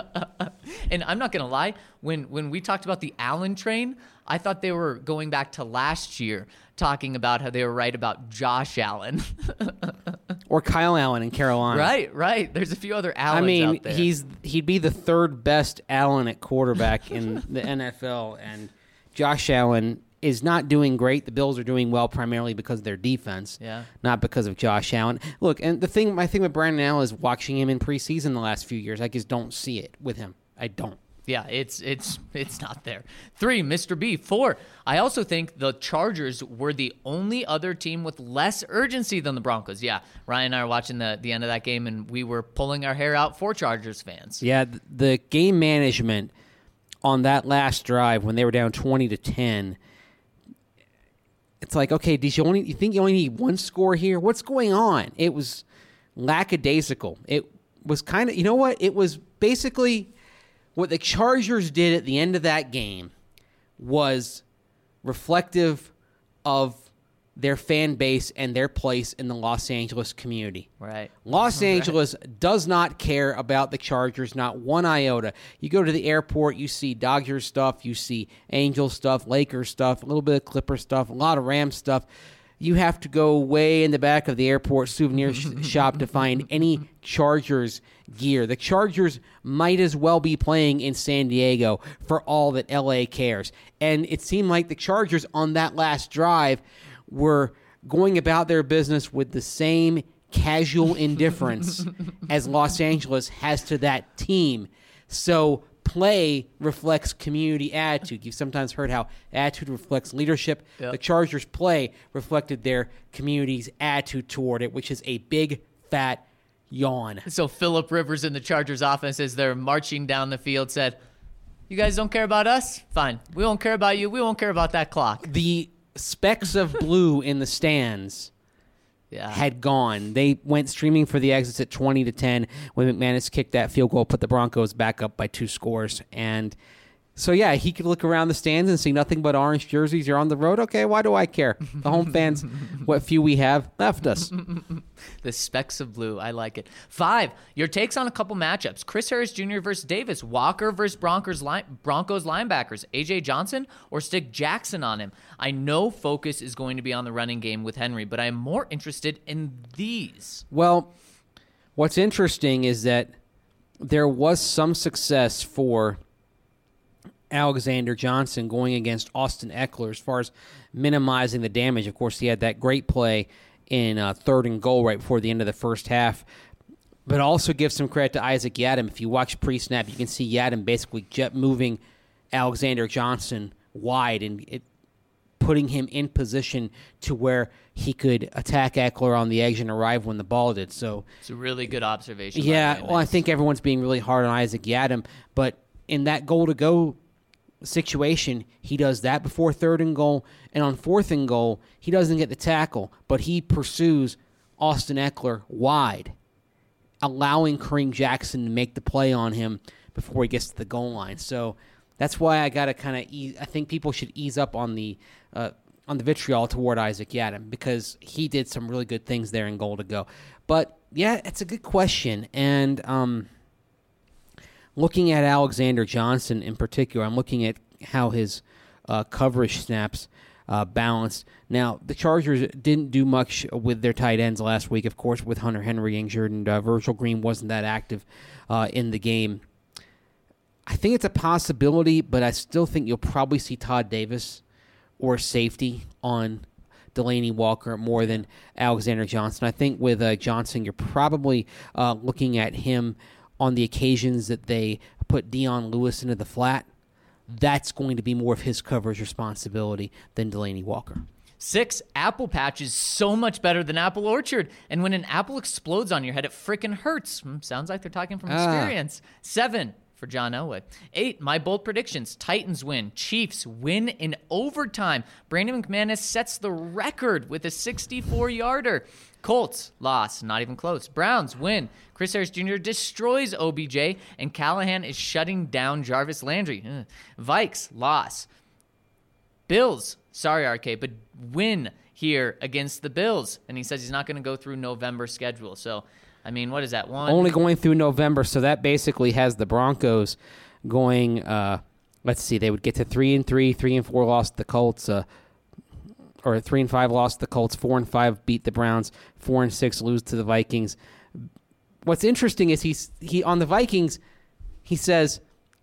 And I'm not going to lie, when when we talked about the Allen train, I thought they were going back to last year, talking about how they were right about Josh Allen. Or Kyle Allen in Carolina. Right, right. There's a few other Allens I mean, out there. he's he'd be the third best Allen at quarterback in the N F L, and Josh Allen is not doing great. The Bills are doing well primarily because of their defense, Yeah. not because of Josh Allen. Look, and the thing, my thing with Brandon Allen is watching him in preseason the last few years. I just don't see it with him. I don't. Yeah, it's it's it's not there. Three, Mister B. Four, I also think the Chargers were the only other team with less urgency than the Broncos. Yeah, Ryan and I were watching the, the end of that game, and we were pulling our hair out for Chargers fans. Yeah, th- the game management on that last drive when they were down twenty to ten, it's like, okay, did you only you think you only need one score here? What's going on? It was lackadaisical. It was kind of, you know what? It was basically what the Chargers did at the end of that game was reflective of their fan base and their place in the Los Angeles community. Right. Los Angeles does not care about the Chargers, not one iota. You go to the airport, you see Dodgers stuff, you see Angels stuff, Lakers stuff, a little bit of Clipper stuff, a lot of Rams stuff. You have to go way in the back of the airport souvenir sh- shop to find any Chargers gear. The Chargers might as well be playing in San Diego for all that L A cares. And it seemed like the Chargers on that last drive were going about their business with the same casual indifference as Los Angeles has to that team. So play reflects community attitude. You've sometimes heard how attitude reflects leadership. Yep. The Chargers' play reflected their community's attitude toward it, which is a big, fat yawn. So Phillip Rivers in the Chargers offense, as they're marching down the field, said, "You guys don't care about us? Fine. We won't care about you. We won't care about that clock." The specks of blue in the stands Yeah. had gone. They went streaming for the exits at twenty to ten when McManus kicked that field goal, put the Broncos back up by two scores. And so, yeah, he could look around the stands and see nothing but orange jerseys. You're on the road? Okay, why do I care? The home fans, what few we have, left us. The specks of blue. I like it. Five, your takes on a couple matchups. Chris Harris Junior versus Davis. Walker versus Broncos, line, Broncos linebackers. A J Johnson or stick Jackson on him. I know focus is going to be on the running game with Henry, but I am more interested in these. Well, what's interesting is that there was some success for Alexander Johnson going against Austin Eckler as far as minimizing the damage. Of course, he had that great play in uh, third and goal right before the end of the first half. But also give some credit to Isaac Yiadom. If you watch pre-snap, you can see Yiadom basically jet moving Alexander Johnson wide and it, putting him in position to where he could attack Eckler on the edge and arrive when the ball did. So It's a really good observation. by yeah, the way, well, I Max. think everyone's being really hard on Isaac Yiadom, but in that goal-to-go situation, he does that before third and goal, and on fourth and goal, he doesn't get the tackle, but he pursues Austin Eckler wide, allowing Kareem Jackson to make the play on him before he gets to the goal line. So that's why I got to kind of ease. I think people should ease up on the uh, on the vitriol toward Isaac Yiadom because he did some really good things there in goal to go. But yeah, it's a good question, and um, looking at Alexander Johnson in particular, I'm looking at how his uh, coverage snaps uh, balanced. Now, the Chargers didn't do much with their tight ends last week, of course, with Hunter Henry injured, and uh, Virgil Green wasn't that active uh, in the game. I think it's a possibility, but I still think you'll probably see Todd Davis or safety on Delaney Walker more than Alexander Johnson. I think with uh, Johnson, you're probably uh, looking at him on the occasions that they put Dion Lewis into the flat. That's going to be more of his coverage responsibility than Delaney Walker. Six, Apple Patch is so much better than Apple Orchard. And when an apple explodes on your head, it freaking hurts. Hmm, sounds like they're talking from Ah. experience. Seven, for John Elway. Eight, my bold predictions. Titans win. Chiefs win in overtime. Brandon McManus sets the record with a sixty-four-yarder. Colts loss, not even close. Browns win. Chris Harris Junior destroys O B J, and Callahan is shutting down Jarvis Landry. Ugh. Vikes loss. Bills, sorry, R K, but win here against the Bills. And he says he's not going to go through November schedule. So, I mean, what is that? One? Only going through November, so that basically has the Broncos going, uh, let's see, they would get to three and three, three and four lost the Colts, uh, or three and five lost the Colts, four and five beat the Browns, four and six lose to the Vikings. What's interesting is he's he on the Vikings, he says,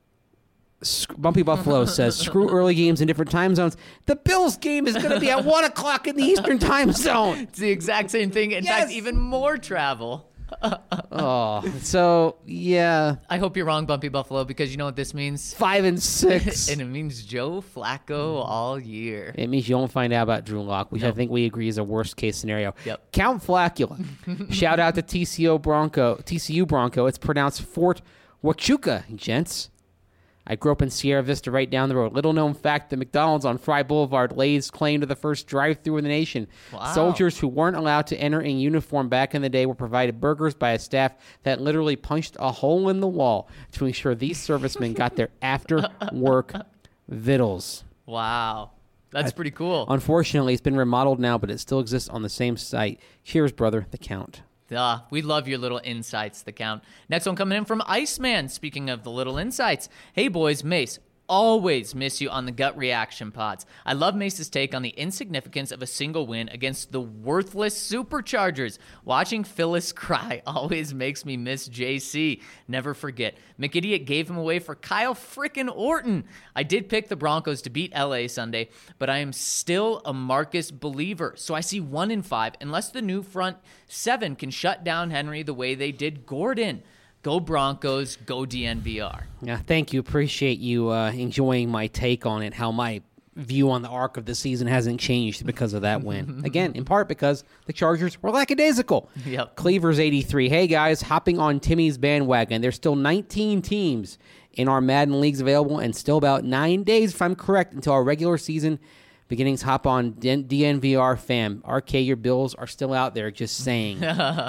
Bumpy Buffalo says, screw early games in different time zones. The Bills game is going to be at one o'clock in the Eastern time zone. It's the exact same thing. In Yes. fact, even more travel. Oh, so, yeah, I hope you're wrong, Bumpy Buffalo, because you know what this means? five and six. And it means Joe Flacco all year. It means you won't find out about Drew Lock, which I think we agree is a worst case scenario. Yep. Count Flacula. Shout out to T C O Bronco, T C U Bronco. It's pronounced Fort Huachuca, gents. I grew up in Sierra Vista right down the road. Little known fact, the McDonald's on Fry Boulevard lays claim to the first drive-thru in the nation. Wow. Soldiers who weren't allowed to enter in uniform back in the day were provided burgers by a staff that literally punched a hole in the wall to ensure these servicemen got their after-work vittles. Wow. That's pretty cool. Unfortunately, it's been remodeled now, but it still exists on the same site. Cheers, brother, the Count. Uh, we love your little insights, the Count. Next one coming in from Iceman. Speaking of the little insights. Hey, boys, Mace. Always miss you on the gut reaction pods. I love Mace's take on the insignificance of a single win against the worthless Superchargers. Watching Phyllis cry always makes me miss J C. Never forget. McIdiot gave him away for Kyle frickin' Orton. I did pick the Broncos to beat L A Sunday, but I am still a Marcus believer. So I see one in five unless the new front seven can shut down Henry the way they did Gordon. Go Broncos, go D N V R. Yeah, thank you. Appreciate you uh, enjoying my take on it, how my view on the arc of the season hasn't changed because of that win. Again, in part because the Chargers were lackadaisical. Yep. Cleavers eighty-three. Hey, guys, hopping on Timmy's bandwagon. There's still nineteen teams in our Madden leagues available and still about nine days, if I'm correct, until our regular season beginnings. Hop on D N V R, fam. R K, your Bills are still out there, just saying.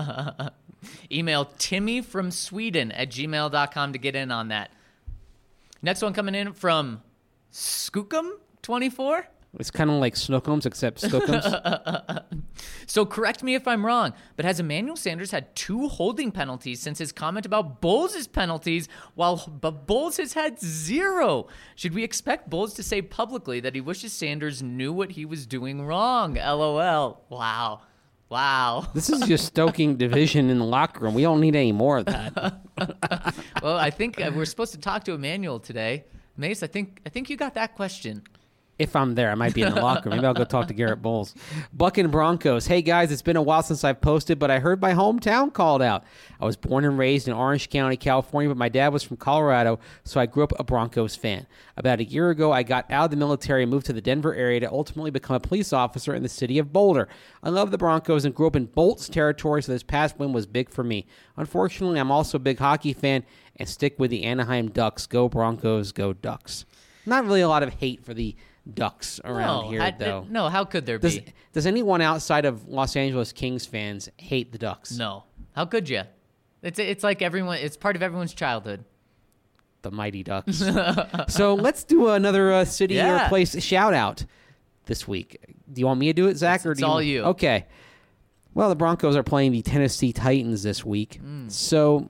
Email Timmy from Sweden at gmail dot com to get in on that. Next one coming in from Skookum twenty-four. It's kind of like Snookums, except Skookums. So correct me if I'm wrong, but has Emmanuel Sanders had two holding penalties since his comment about Bowles' penalties, while but Bowles has had zero? Should we expect Bowles to say publicly that he wishes Sanders knew what he was doing wrong? LOL. Wow. Wow. This is just stoking division in the locker room. We don't need any more of that. Well, I think uh, we're supposed to talk to Emmanuel today. Mace, I think I think you got that question. If I'm there, I might be in the locker room. Maybe I'll go talk to Garrett Bowles. Buck and Broncos. Hey, guys, it's been a while since I've posted, but I heard my hometown called out. I was born and raised in Orange County, California, but my dad was from Colorado, so I grew up a Broncos fan. About a year ago, I got out of the military and moved to the Denver area to ultimately become a police officer in the city of Boulder. I love the Broncos and grew up in Bolts territory, so this past win was big for me. Unfortunately, I'm also a big hockey fan and stick with the Anaheim Ducks. Go Broncos, go Ducks. Not really a lot of hate for the Ducks around no, here, I, though. No, how could there Does, be? does anyone outside of Los Angeles Kings fans hate the Ducks? No. How could you? It's it's like everyone. It's part of everyone's childhood. The Mighty Ducks. So let's do another uh, city Yeah. or place shout out this week. Do you want me to do it, Zach? It's, or it's do you all want- you. Okay. Well, the Broncos are playing the Tennessee Titans this week. Mm. So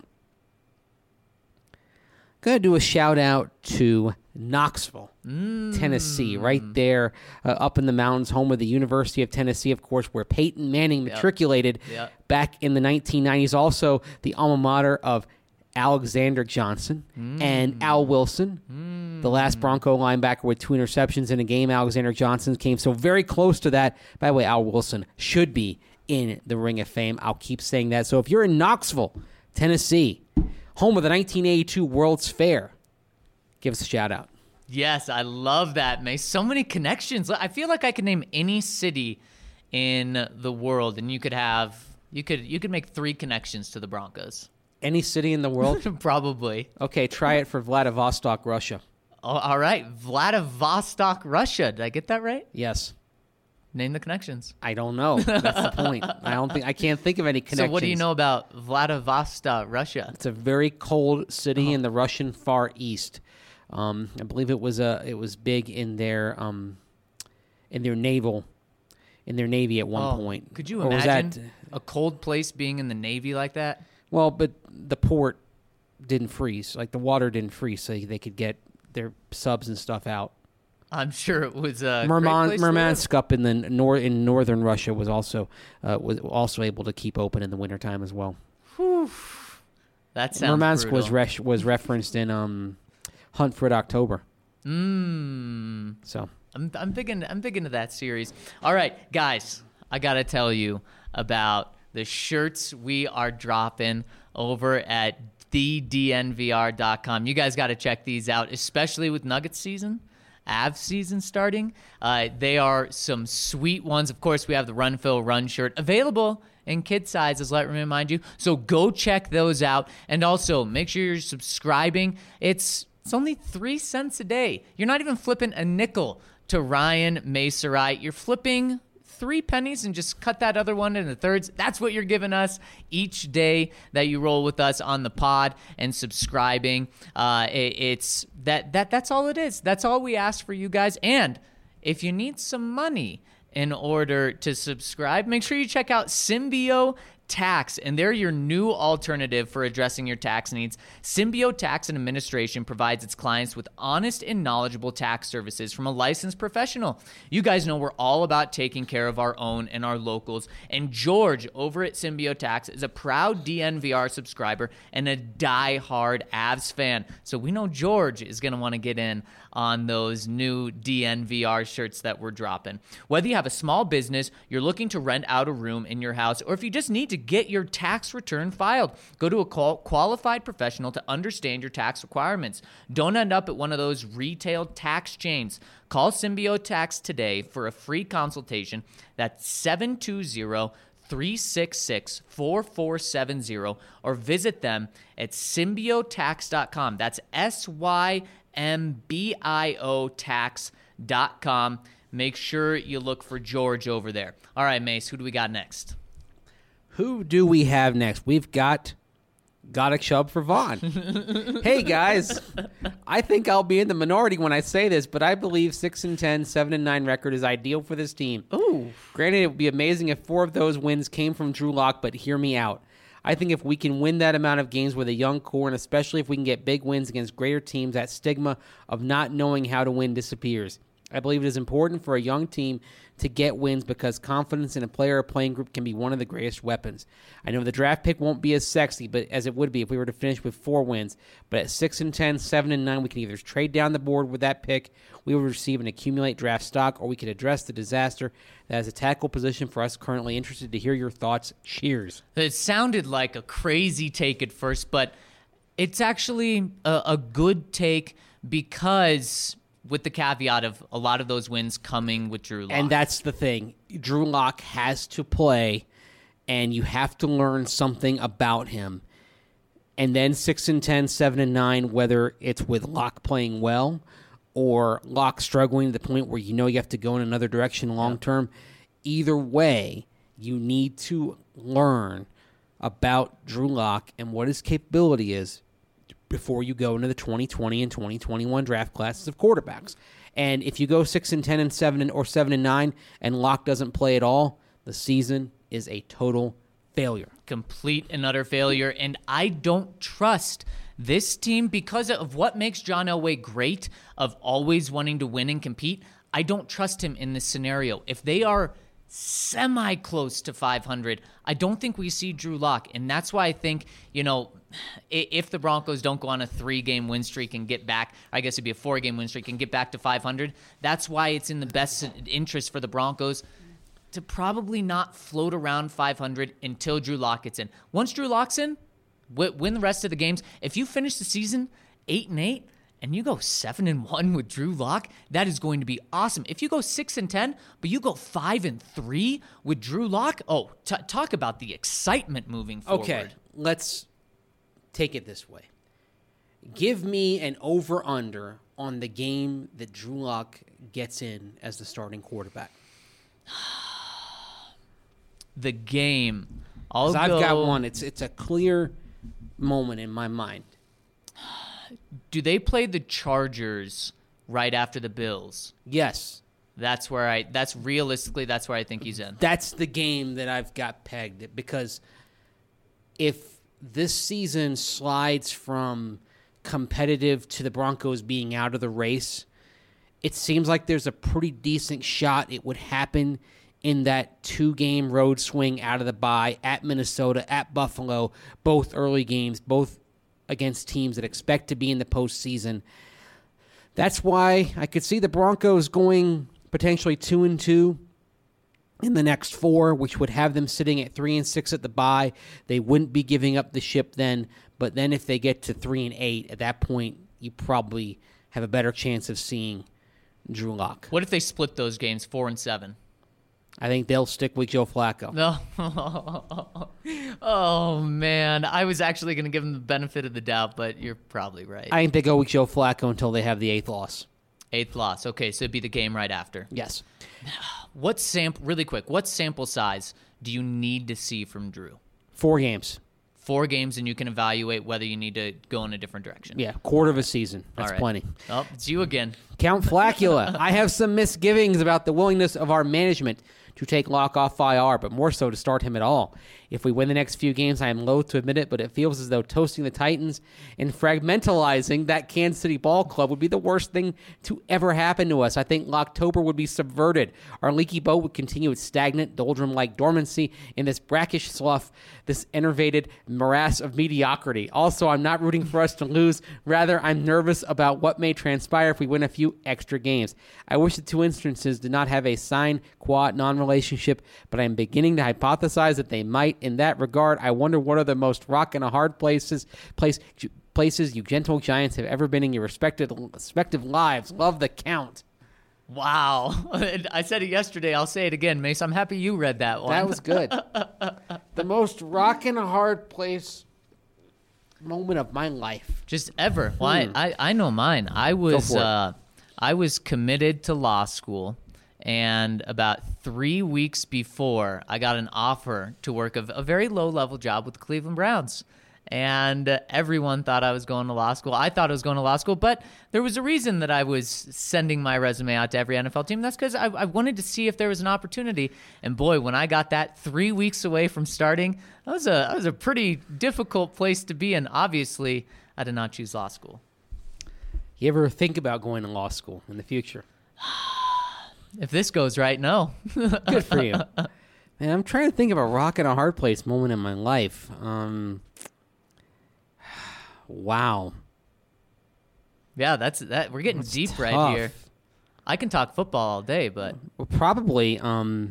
going to do a shout out to Knoxville, Mm. Tennessee, right there uh, up in the mountains, home of the University of Tennessee, of course, where Peyton Manning matriculated Yep. back in the nineteen nineties. Also, the alma mater of Alexander Johnson Mm. and Al Wilson, the last Bronco linebacker with two interceptions in a game. Alexander Johnson came so very close to that. By the way, Al Wilson should be in the Ring of Fame. I'll keep saying that. So if you're in Knoxville, Tennessee, home of the nineteen eighty-two World's Fair, give us a shout out. Yes, I love that, May. So many connections. I feel like I could name any city in the world, and you could have you could you could make three connections to the Broncos. Any city in the world? Probably. Okay, try it for Vladivostok, Russia. Oh, all right, Vladivostok, Russia. Did I get that right? Yes. Name the connections. I don't know. That's the point. I don't think I can't think of any connections. So, what do you know about Vladivostok, Russia? It's a very cold city in the Russian Far East. Um, I believe it was a it was big in their um, in their naval in their navy at one Oh, point. Could you Or was imagine that- a cold place being in the Navy like that? well, but the port didn't freeze. Like the water didn't freeze, so they could get their subs and stuff out. I'm sure it was a Murman, great place to live. Murmansk up in the nor in northern Russia was also uh, was also able to keep open in the wintertime as well. Whew. That sounds Murmansk was brutal. res- was referenced in um, Hunt for Red October. Mmm. So I'm I'm big into I'm big into that series. All right, guys, I gotta tell you about the shirts we are dropping over at the D N V R dot com. You guys got to check these out, especially with Nuggets season, Avs season starting. Uh, they are some sweet ones. Of course, we have the Run Phil Run shirt available in kid sizes, let me remind you. So go check those out, and also make sure you're subscribing. It's It's only three cents a day. You're not even flipping a nickel to Ryan Macerite. You're flipping three pennies and just cut that other one into thirds. That's what you're giving us each day that you roll with us on the pod and subscribing. Uh, it, it's that that that's all it is. That's all we ask for you guys. And if you need some money in order to subscribe, make sure you check out Symbio Tax, and they're your new alternative for addressing your tax needs. Symbio Tax and Administration provides its clients with honest and knowledgeable tax services from a licensed professional. You guys know we're all about taking care of our own and our locals, and George over at Symbio Tax is a proud D N V R subscriber and a die-hard Avs fan. So we know George is going to want to get in on those new D N V R shirts that we're dropping. Whether you have a small business, you're looking to rent out a room in your house, or if you just need to get your tax return filed, go to a qual- qualified professional to understand your tax requirements. Don't end up at one of those retail tax chains. Call Symbio Tax today for a free consultation. That's seven two zero, three six six, four four seven zero, or visit them at symbio tax dot com. That's S Y M B I O tax dot com. Make sure you look for George over there. All right, Mace, who do we got next? Who do we have next? We've got Got a Chub for Vaughn. Hey, guys. I think I'll be in the minority when I say this, but I believe six and ten, seven and nine record is ideal for this team. Ooh. Granted, it would be amazing if four of those wins came from Drew Lock, but hear me out. I think if we can win that amount of games with a young core, and especially if we can get big wins against greater teams, that stigma of not knowing how to win disappears. I believe it is important for a young team to get wins because confidence in a player or playing group can be one of the greatest weapons. I know the draft pick won't be as sexy, but as it would be if we were to finish with four wins. But at six and ten, seven and nine, we can either trade down the board with that pick, we will receive and accumulate draft stock, or we could address the disaster that is a tackle position for us currently. Interested to hear your thoughts. Cheers. It sounded like a crazy take at first, but it's actually a, a good take because, with the caveat of a lot of those wins coming with Drew Lock. And that's the thing. Drew Lock has to play, and you have to learn something about him. And then six and ten, seven and nine, whether it's with Lock playing well or Lock struggling to the point where you know you have to go in another direction long term, either way, you need to learn about Drew Lock and what his capability is before you go into the twenty twenty and twenty twenty-one draft classes of quarterbacks. And if you go six and ten and seven and, or seven and nine and Lock doesn't play at all, the season is a total failure. Complete and utter failure. And I don't trust this team because of what makes John Elway great, of always wanting to win and compete. I don't trust him in this scenario. If they are semi-close to five hundred, I don't think we see Drew Lock. And that's why I think, you know, if the Broncos don't go on a three-game win streak and get back, I guess it'd be a four-game win streak and get back to five hundred, that's why it's in the best interest for the Broncos to probably not float around five hundred until Drew Lock gets in. Once Drew Lock's in, win the rest of the games. If you finish the season eight and eight and you go seven and one with Drew Lock, that is going to be awesome. If you go six and ten, but you go five and three with Drew Lock, oh, t- talk about the excitement moving forward. Okay, let's take it this way. Give me an over-under on the game that Drew Lock gets in as the starting quarterback. The game. I'll 'Cause I've go, got one. It's it's a clear moment in my mind. Do they play the Chargers right after the Bills? Yes. That's where I, that's realistically, that's where I think he's in. That's the game that I've got pegged, because if this season slides from competitive to the Broncos being out of the race, it seems like there's a pretty decent shot it would happen in that two-game road swing out of the bye at Minnesota, at Buffalo, both early games, both against teams that expect to be in the postseason. That's why I could see the Broncos going potentially two and two in the next four, which would have them sitting at three and six at the bye. They wouldn't be giving up the ship then, but then if they get to three and eight, at that point, you probably have a better chance of seeing Drew Lock. What if they split those games, four and seven? I think they'll stick with Joe Flacco. No. Oh, man. I was actually going to give them the benefit of the doubt, but you're probably right. I think they go with Joe Flacco until they have the eighth loss. Eighth loss. Okay, so it'd be the game right after. Yes. What sample, really quick, what sample size do you need to see from Drew? Four games. four games, and you can evaluate whether you need to go in a different direction. Yeah, quarter of a season. That's All right. plenty. Oh, it's you again. Count Flacula. I have some misgivings about the willingness of our management to take Locke off I R, but more so to start him at all. If we win the next few games, I am loath to admit it, but it feels as though toasting the Titans and fragmentalizing that Kansas City ball club would be the worst thing to ever happen to us. I think Locktober would be subverted. Our leaky boat would continue its stagnant, doldrum-like dormancy in this brackish slough, this enervated morass of mediocrity. Also, I'm not rooting for us to lose. Rather, I'm nervous about what may transpire if we win a few extra games. I wish the two instances did not have a sine qua non relationship, but I'm beginning to hypothesize that they might. In that regard, I wonder what are the most rock and a hard places place, places you gentle giants have ever been in your respective, respective lives. Love the count. Wow. I said it yesterday. I'll say it again, Mace. I'm happy you read that one. That was good. The most rock and a hard place moment of my life. Just ever. Well, I, I, I know mine. I was for it. uh, I was committed to law school. And about three weeks before, I got an offer to work a, a very low-level job with the Cleveland Browns. And uh, everyone thought I was going to law school. I thought I was going to law school, but there was a reason that I was sending my resume out to every N F L team. That's because I, I wanted to see if there was an opportunity. And boy, when I got that three weeks away from starting, that was a, that was a pretty difficult place to be in. Obviously, I did not choose law school. You ever think about going to law school in the future? If this goes right, no. Good for you. Man, I'm trying to think of a rock and a hard place moment in my life. Um, wow. Yeah, that's that. We're getting That's deep tough. right here. I can talk football all day, but Well, probably. Um,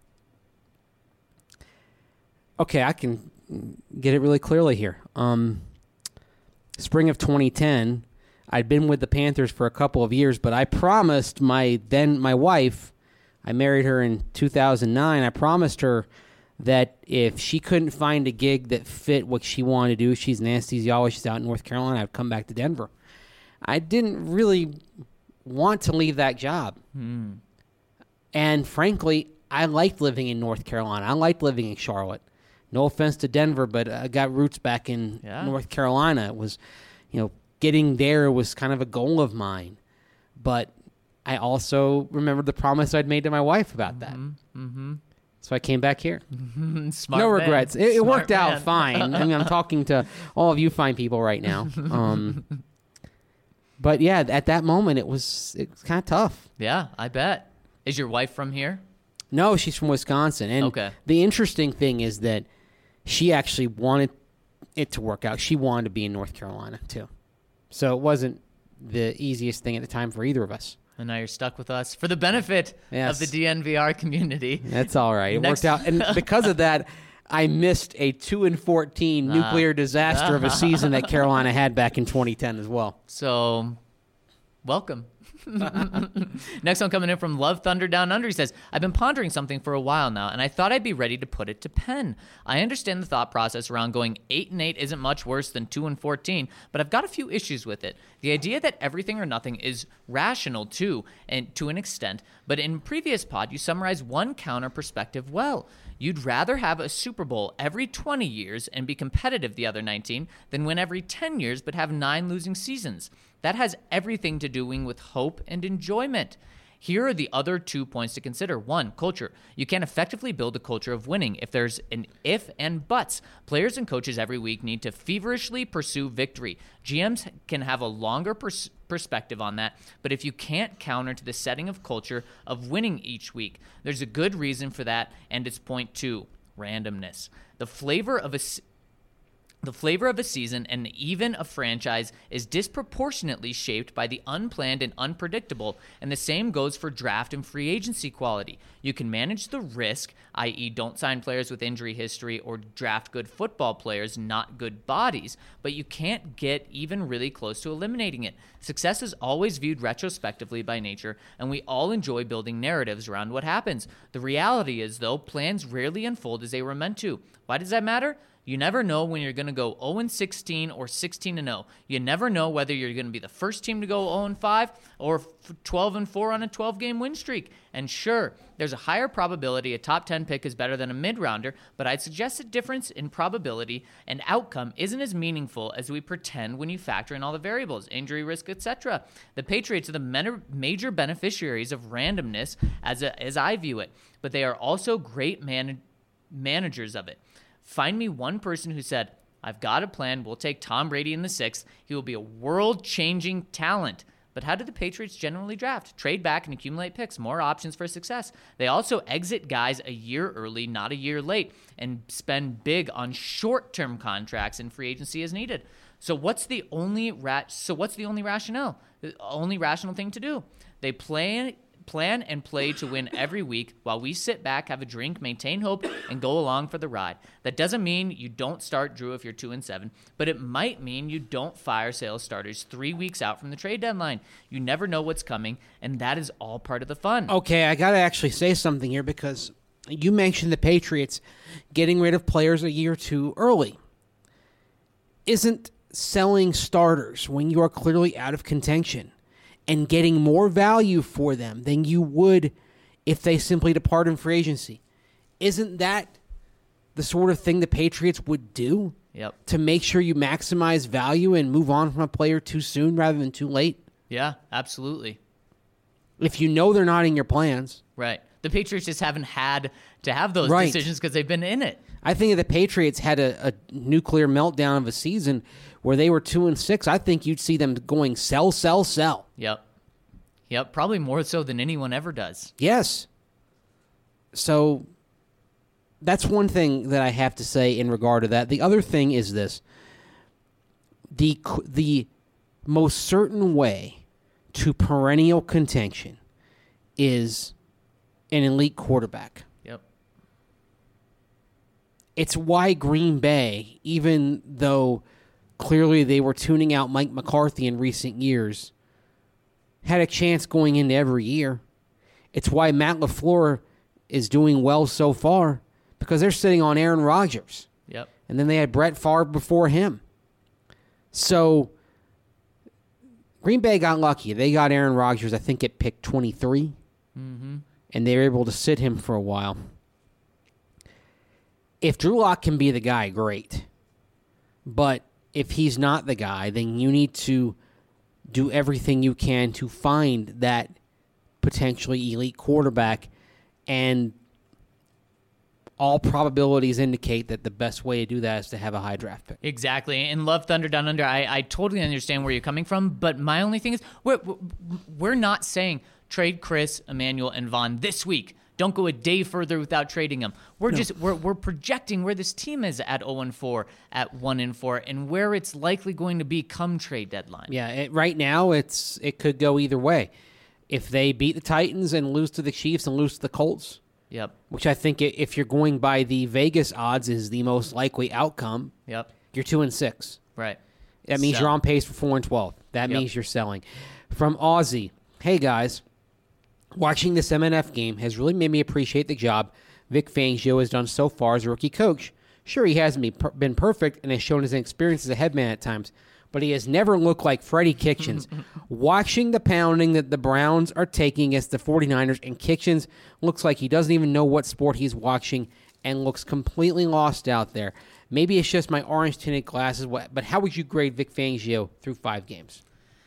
okay, I can get it really clearly here. Um, spring of twenty ten, I'd been with the Panthers for a couple of years, but I promised my then my wife, I married her in two thousand nine, I promised her that if she couldn't find a gig that fit what she wanted to do, she's an anesthesiologist, she's out in North Carolina, I'd come back to Denver. I didn't really want to leave that job. hmm. And frankly, I liked living in North Carolina. I liked living in Charlotte. No offense to Denver, but I got roots back in Yeah. North Carolina. It was, you know, getting there was kind of a goal of mine. But I also remembered the promise I'd made to my wife about that. Mm-hmm. So I came back here. Smart no man. regrets. It, it Smart worked out man. fine. I mean, I'm talking to all of you fine people right now. Um, but yeah, at that moment, it was it was kind of tough. Yeah, I bet. Is your wife from here? No, she's from Wisconsin. And Okay. the interesting thing is that she actually wanted it to work out. She wanted to be in North Carolina, too. So it wasn't the easiest thing at the time for either of us. And now you're stuck with us for the benefit Yes. of the D N V R community. That's all right. It Next- worked out. And because of that, I missed a two and fourteen nuclear disaster of a season that Carolina had back in twenty ten as well. So, welcome. Next one coming in from Love Thunder Down Under. He says, I've been pondering something for a while now, and I thought I'd be ready to put it to pen. I understand the thought process around going eight and eight isn't much worse than two and fourteen, but I've got a few issues with it. The idea that everything or nothing is rational too, and to an extent, but in previous pod, you summarized one counter perspective well. You'd rather have a Super Bowl every twenty years and be competitive the other nineteen than win every ten years but have nine losing seasons. That has everything to do with hope and enjoyment. Here are the other two points to consider. One, culture. You can't effectively build a culture of winning if there's an if and buts. Players and coaches every week need to feverishly pursue victory. G Ms can have a longer pers- perspective on that, but if you can't counter to the setting of culture of winning each week, there's a good reason for that, and it's point two, randomness. The flavor of a... S- The flavor of a season and even a franchise is disproportionately shaped by the unplanned and unpredictable, and the same goes for draft and free agency quality. You can manage the risk, that is don't sign players with injury history or draft good football players, not good bodies, but you can't get even really close to eliminating it. Success is always viewed retrospectively by nature, and we all enjoy building narratives around what happens. The reality is, though, plans rarely unfold as they were meant to. Why does that matter? You never know when you're going to go oh and sixteen or sixteen and oh. You never know whether you're going to be the first team to go oh and five or twelve and four on a twelve-game win streak. And sure, there's a higher probability a top ten pick is better than a mid-rounder, but I'd suggest a difference in probability and outcome isn't as meaningful as we pretend when you factor in all the variables, injury risk, et cetera. The Patriots are the men- major beneficiaries of randomness as, a, as I view it, but they are also great man- managers of it. Find me one person who said, I've got a plan, we'll take Tom Brady in the sixth, he will be a world-changing talent. But how do the Patriots generally draft? Trade back and accumulate picks, more options for success. They also exit guys a year early, not a year late, and spend big on short-term contracts and free agency as needed. So what's the only ra- so what's the only rationale? The only rational thing to do? They plan plan and play to win every week while we sit back, have a drink, maintain hope, and go along for the ride. That doesn't mean you don't start Drew if you're two and seven, but it might mean you don't fire sales starters three weeks out from the trade deadline. You never know what's coming, and that is all part of the fun. Okay, I got to actually say something here because you mentioned the Patriots getting rid of players a year too early. Isn't selling starters when you are clearly out of contention and getting more value for them than you would if they simply depart in free agency, isn't that the sort of thing the Patriots would do? Yep. To make sure you maximize value and move on from a player too soon rather than too late? Yeah, absolutely. If you know they're not in your plans. Right. The Patriots just haven't had to have those Right. decisions because they've been in it. I think if the Patriots had a, a nuclear meltdown of a season where they were two and six, I think you'd see them going sell, sell, sell. Yep. Yep. Probably more so than anyone ever does. Yes. So that's one thing that I have to say in regard to that. The other thing is this. The the most certain way to perennial contention is an elite quarterback. Yep. It's why Green Bay, even though clearly they were tuning out Mike McCarthy in recent years, had a chance going into every year. It's why Matt LaFleur is doing well so far, because they're sitting on Aaron Rodgers. Yep. And then they had Brett Favre before him. So Green Bay got lucky. They got Aaron Rodgers, I think, at pick twenty-three. Mm-hmm. And they were able to sit him for a while. If Drew Lock can be the guy, great. But if he's not the guy, then you need to do everything you can to find that potentially elite quarterback. And all probabilities indicate that the best way to do that is to have a high draft pick. Exactly. And Love Thunder Down Under, I, I totally understand where you're coming from, but my only thing is we're, we're not saying trade Chris, Emmanuel, and Vaughn this week. Don't go a day further without trading them. We're no. just we're we're projecting where this team is at oh and four, at one and four, and where it's likely going to be come trade deadline. Yeah, it, right now it's it could go either way. If they beat the Titans and lose to the Chiefs and lose to the Colts, yep. which I think if you're going by the Vegas odds is the most likely outcome. Yep. You're two and six. Right. That means Sell. you're on pace for four and twelve. That Yep. means you're selling. From Aussie, hey guys. Watching this M N F game has really made me appreciate the job Vic Fangio has done so far as a rookie coach. Sure, he hasn't been perfect and has shown his inexperience as a headman at times, but he has never looked like Freddie Kitchens. Watching the pounding that the Browns are taking against the 49ers, and Kitchens looks like he doesn't even know what sport he's watching and looks completely lost out there. Maybe it's just my orange-tinted glasses, but how would you grade Vic Fangio through five games?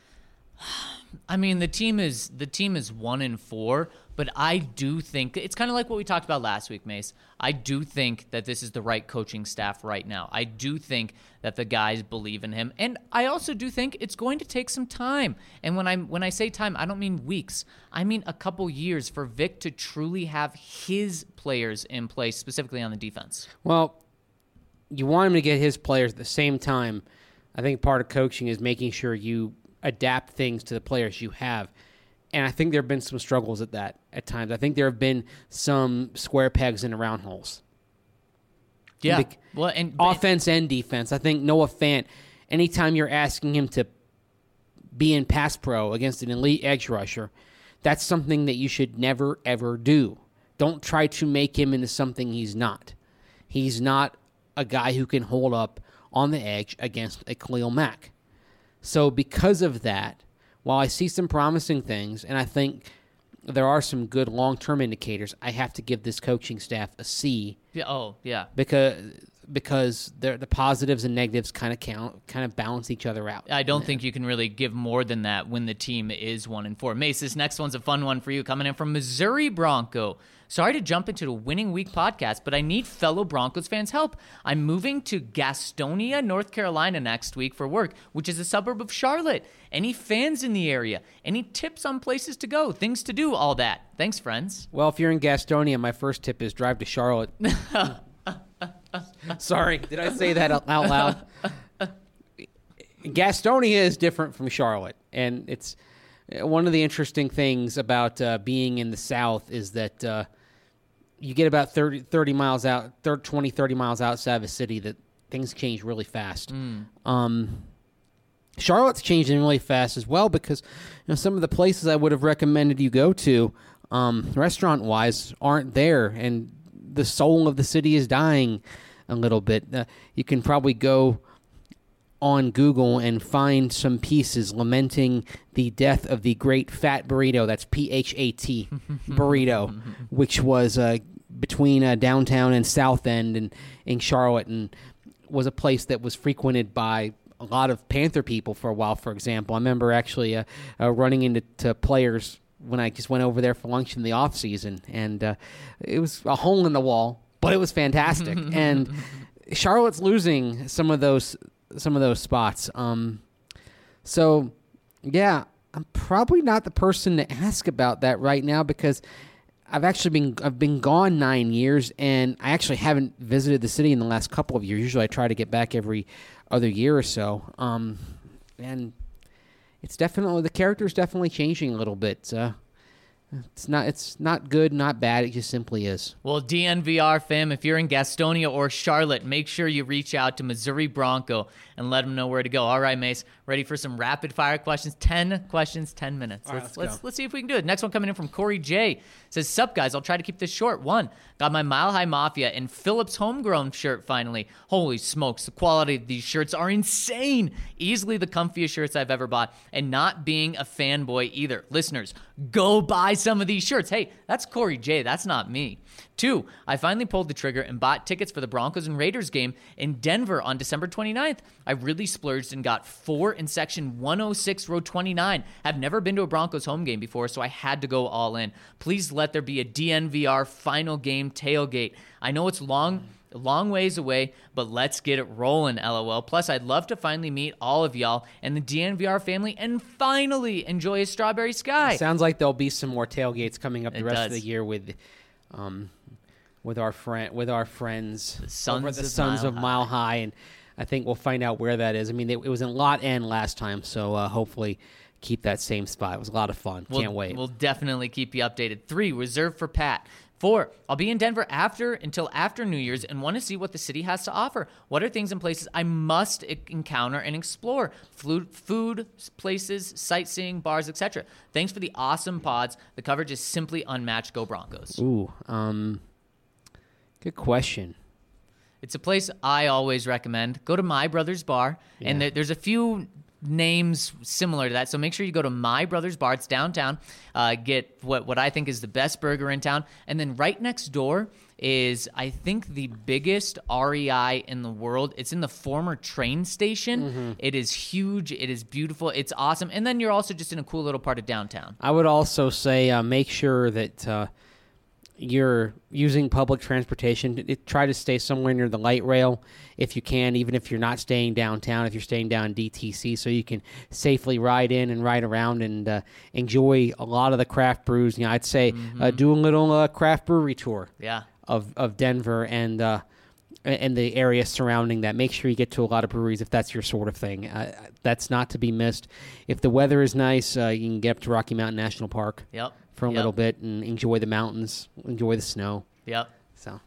I mean, the team is the team is one and four, but I do think it's kind of like what we talked about last week, Mace. I do think that this is the right coaching staff right now. I do think that the guys believe in him, and I also do think it's going to take some time. And when I when I say time, I don't mean weeks. I mean a couple years for Vic to truly have his players in place, specifically on the defense. Well, you want him to get his players at the same time. I think part of coaching is making sure you adapt things to the players you have. And I think there have been some struggles at that at times. I think there have been some square pegs in the round holes. Yeah. The, well, and offense and defense. I think Noah Fant, anytime you're asking him to be in pass pro against an elite edge rusher, that's something that you should never, ever do. Don't try to make him into something he's not. He's not a guy who can hold up on the edge against a Khalil Mack. So because of that, while I see some promising things, and I think there are some good long-term indicators, I have to give this coaching staff a C. Yeah. Oh, yeah. Because because the positives and negatives kind of count, kind of balance each other out. I don't think you can really give more than that when the team is one and four. Mace, this next one's a fun one for you, coming in from Missouri Bronco. Sorry to jump into the Winning Week podcast, but I need fellow Broncos fans' help. I'm moving to Gastonia, North Carolina next week for work, which is a suburb of Charlotte. Any fans in the area? Any tips on places to go, things to do, all that? Thanks, friends. Well, if you're in Gastonia, my first tip is drive to Charlotte. Sorry, did I say that out loud? Gastonia is different from Charlotte, and it's one of the interesting things about uh, being in the South is that uh, you get about thirty, thirty miles out, twenty, thirty miles outside of a city that things change really fast. Mm. Um, Charlotte's changing really fast as well because you know some of the places I would have recommended you go to, um, restaurant-wise, aren't there, and the soul of the city is dying a little bit. Uh, you can probably go on Google and find some pieces lamenting the death of the great Fat Burrito, that's P H A T, Burrito, which was uh, between uh, downtown and South End and in Charlotte, and was a place that was frequented by a lot of Panther people for a while, for example. I remember actually uh, uh, running into to players when I just went over there for lunch in the off season, and uh, it was a hole in the wall, but it was fantastic. And Charlotte's losing some of those some of those spots. Um, so yeah, I'm probably not the person to ask about that right now because I've actually been I've been gone nine years, and I actually haven't visited the city in the last couple of years. Usually, I try to get back every other year or so. Um, and It's definitely the character's definitely changing a little bit. Uh, it's not it's not good, not bad. It just simply is. Well, D N V R fam, if you're in Gastonia or Charlotte, make sure you reach out to Missouri Bronco and let them know where to go. All right, Mace, ready for some rapid fire questions? Ten questions, ten minutes. All right, let's let's let's, go. let's see if we can do it. Next one coming in from Corey J. Says, "Sup guys, I'll try to keep this short. One, got my Mile High Mafia and Phillips homegrown shirt finally. Holy smokes, the quality of these shirts are insane. Easily the comfiest shirts I've ever bought, and not being a fanboy either. Listeners, go buy some of these shirts." Hey, that's Corey J. That's not me. Two, I finally pulled the trigger and bought tickets for the Broncos and Raiders game in Denver on December twenty-ninth. I really splurged and got four in section one oh six, row twenty-nine. I've never been to a Broncos home game before, so I had to go all in. Please let there be a D N V R final game tailgate. I know it's long, long ways away, but let's get it rolling, LOL. Plus, I'd love to finally meet all of y'all and the D N V R family and finally enjoy a strawberry sky. Sounds like there'll be some more tailgates coming up the It rest does. of the year with, um, with our friend, with our friends, The Sons over the of Sons Mile of Mile High, and I think we'll find out where that is. I mean, it, it was in Lot N last time, so uh, hopefully keep that same spot. It was a lot of fun. We'll, Can't wait. We'll definitely keep you updated. Three, reserved for Pat. Four, I'll be in Denver after until after New Year's and want to see what the city has to offer. What are things and places I must e- encounter and explore? Food, food, places, sightseeing, bars, et cetera. Thanks for the awesome pods. The coverage is simply unmatched. Go Broncos. Ooh, um, good question. It's a place I always recommend. Go to My Brother's Bar, and Yeah. there, there's a few names similar to that, so make sure you go to My Brother's Bar. It's downtown. Uh, get what, what I think is the best burger in town. And then right next door is, I think, the biggest R E I in the world. It's in the former train station. Mm-hmm. It is huge. It is beautiful. It's awesome. And then you're also just in a cool little part of downtown. I would also say uh, make sure that uh, you're using public transportation. It, try to stay somewhere near the light rail if you can, even if you're not staying downtown, if you're staying down in D T C, so you can safely ride in and ride around and uh, enjoy a lot of the craft brews. You know, I'd say Mm-hmm. uh, do a little uh, craft brewery tour Yeah. of, of Denver and uh, and the area surrounding that. Make sure you get to a lot of breweries if that's your sort of thing. Uh, that's not to be missed. If the weather is nice, uh, you can get up to Rocky Mountain National Park Yep. for a Yep. little bit and enjoy the mountains, enjoy the snow. Yep. So,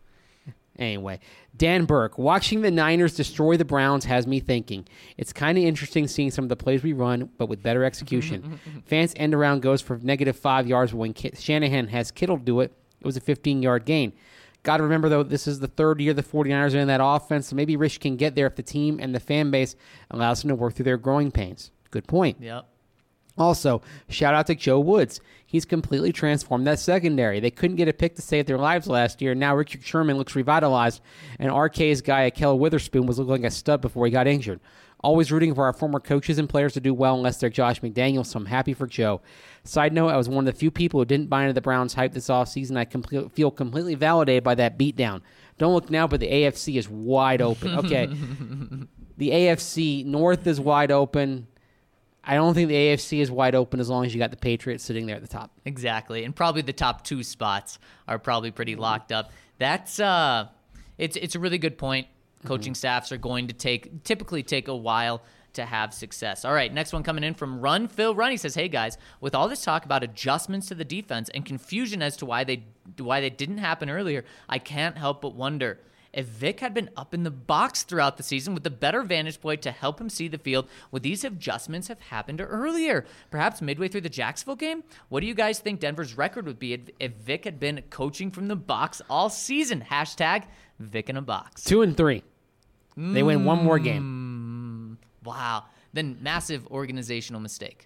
anyway, Dan Burke, watching the Niners destroy the Browns has me thinking. It's kind of interesting seeing some of the plays we run, but with better execution. Fans end around goes for negative five yards, but when Ki- Shanahan has Kittle do it, it was a fifteen-yard gain. Got to remember, though, this is the third year the 49ers are in that offense, so maybe Rich can get there if the team and the fan base allows him to work through their growing pains. Good point. Yep. Also, shout out to Joe Woods. He's completely transformed that secondary. They couldn't get a pick to save their lives last year. Now Richard Sherman looks revitalized, and R K's guy, Akel Witherspoon, was looking like a stud before he got injured. Always rooting for our former coaches and players to do well unless they're Josh McDaniels, so I'm happy for Joe. Side note, I was one of the few people who didn't buy into the Browns' hype this offseason. I complete, feel completely validated by that beatdown. Don't look now, but the A F C is wide open. Okay, the A F C North is wide open. I don't think the A F C is wide open as long as you got the Patriots sitting there at the top. Exactly. And probably the top two spots are probably pretty locked up. That's uh it's it's a really good point. Coaching mm-hmm. staffs are going to take typically take a while to have success. All right, next one coming in from Run Phil Run. He says, "Hey guys, with all this talk about adjustments to the defense and confusion as to why they why they didn't happen earlier, I can't help but wonder if Vic had been up in the box throughout the season with a better vantage point to help him see the field, would these adjustments have happened earlier? Perhaps midway through the Jacksonville game? What do you guys think Denver's record would be if Vic had been coaching from the box all season? Hashtag Vic in a box." Two and three. They win one more game. Mm, wow. Then massive organizational mistake.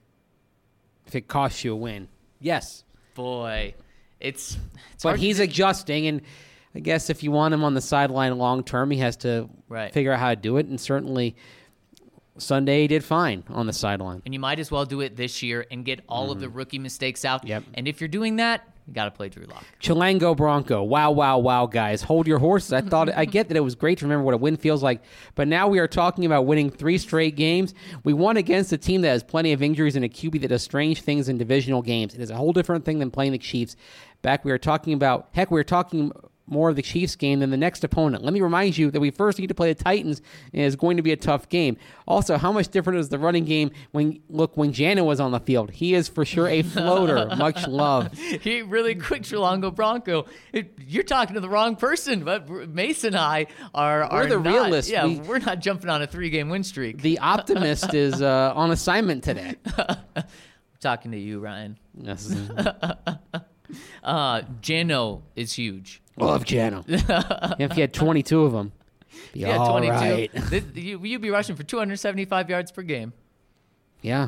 If it costs you a win. Yes. Boy, it's, it's But hard he's to adjusting, and I guess if you want him on the sideline long term, he has to right. figure out how to do it. And certainly Sunday he did fine on the sideline. And you might as well do it this year and get all mm. of the rookie mistakes out. Yep. And if you're doing that, you got to play Drew Lock. Chilango Bronco. Wow, wow, wow, guys. Hold your horses. I thought I get that it was great to remember what a win feels like, but now we are talking about winning three straight games. We won against a team that has plenty of injuries and a Q B that does strange things in divisional games. It is a whole different thing than playing the Chiefs. Back we were talking about, heck, we were talking more of the Chiefs game than the next opponent. Let me remind you that we first need to play the Titans, and it's going to be a tough game. Also, how much different is the running game when, look, when Jano was on the field? He is for sure a floater. Much love. He really quick, Chilango Bronco. It, you're talking to the wrong person, but Mason and I are, are We're the not, realists. Yeah, we, we're not jumping on a three-game win streak. The optimist is uh, on assignment today. Talking to you, Ryan. Yes. uh, Jano is huge. Love Jano. If you had twenty-two of them, be yeah, all twenty-two. right. This, you, you'd be rushing for two hundred seventy-five yards per game. Yeah.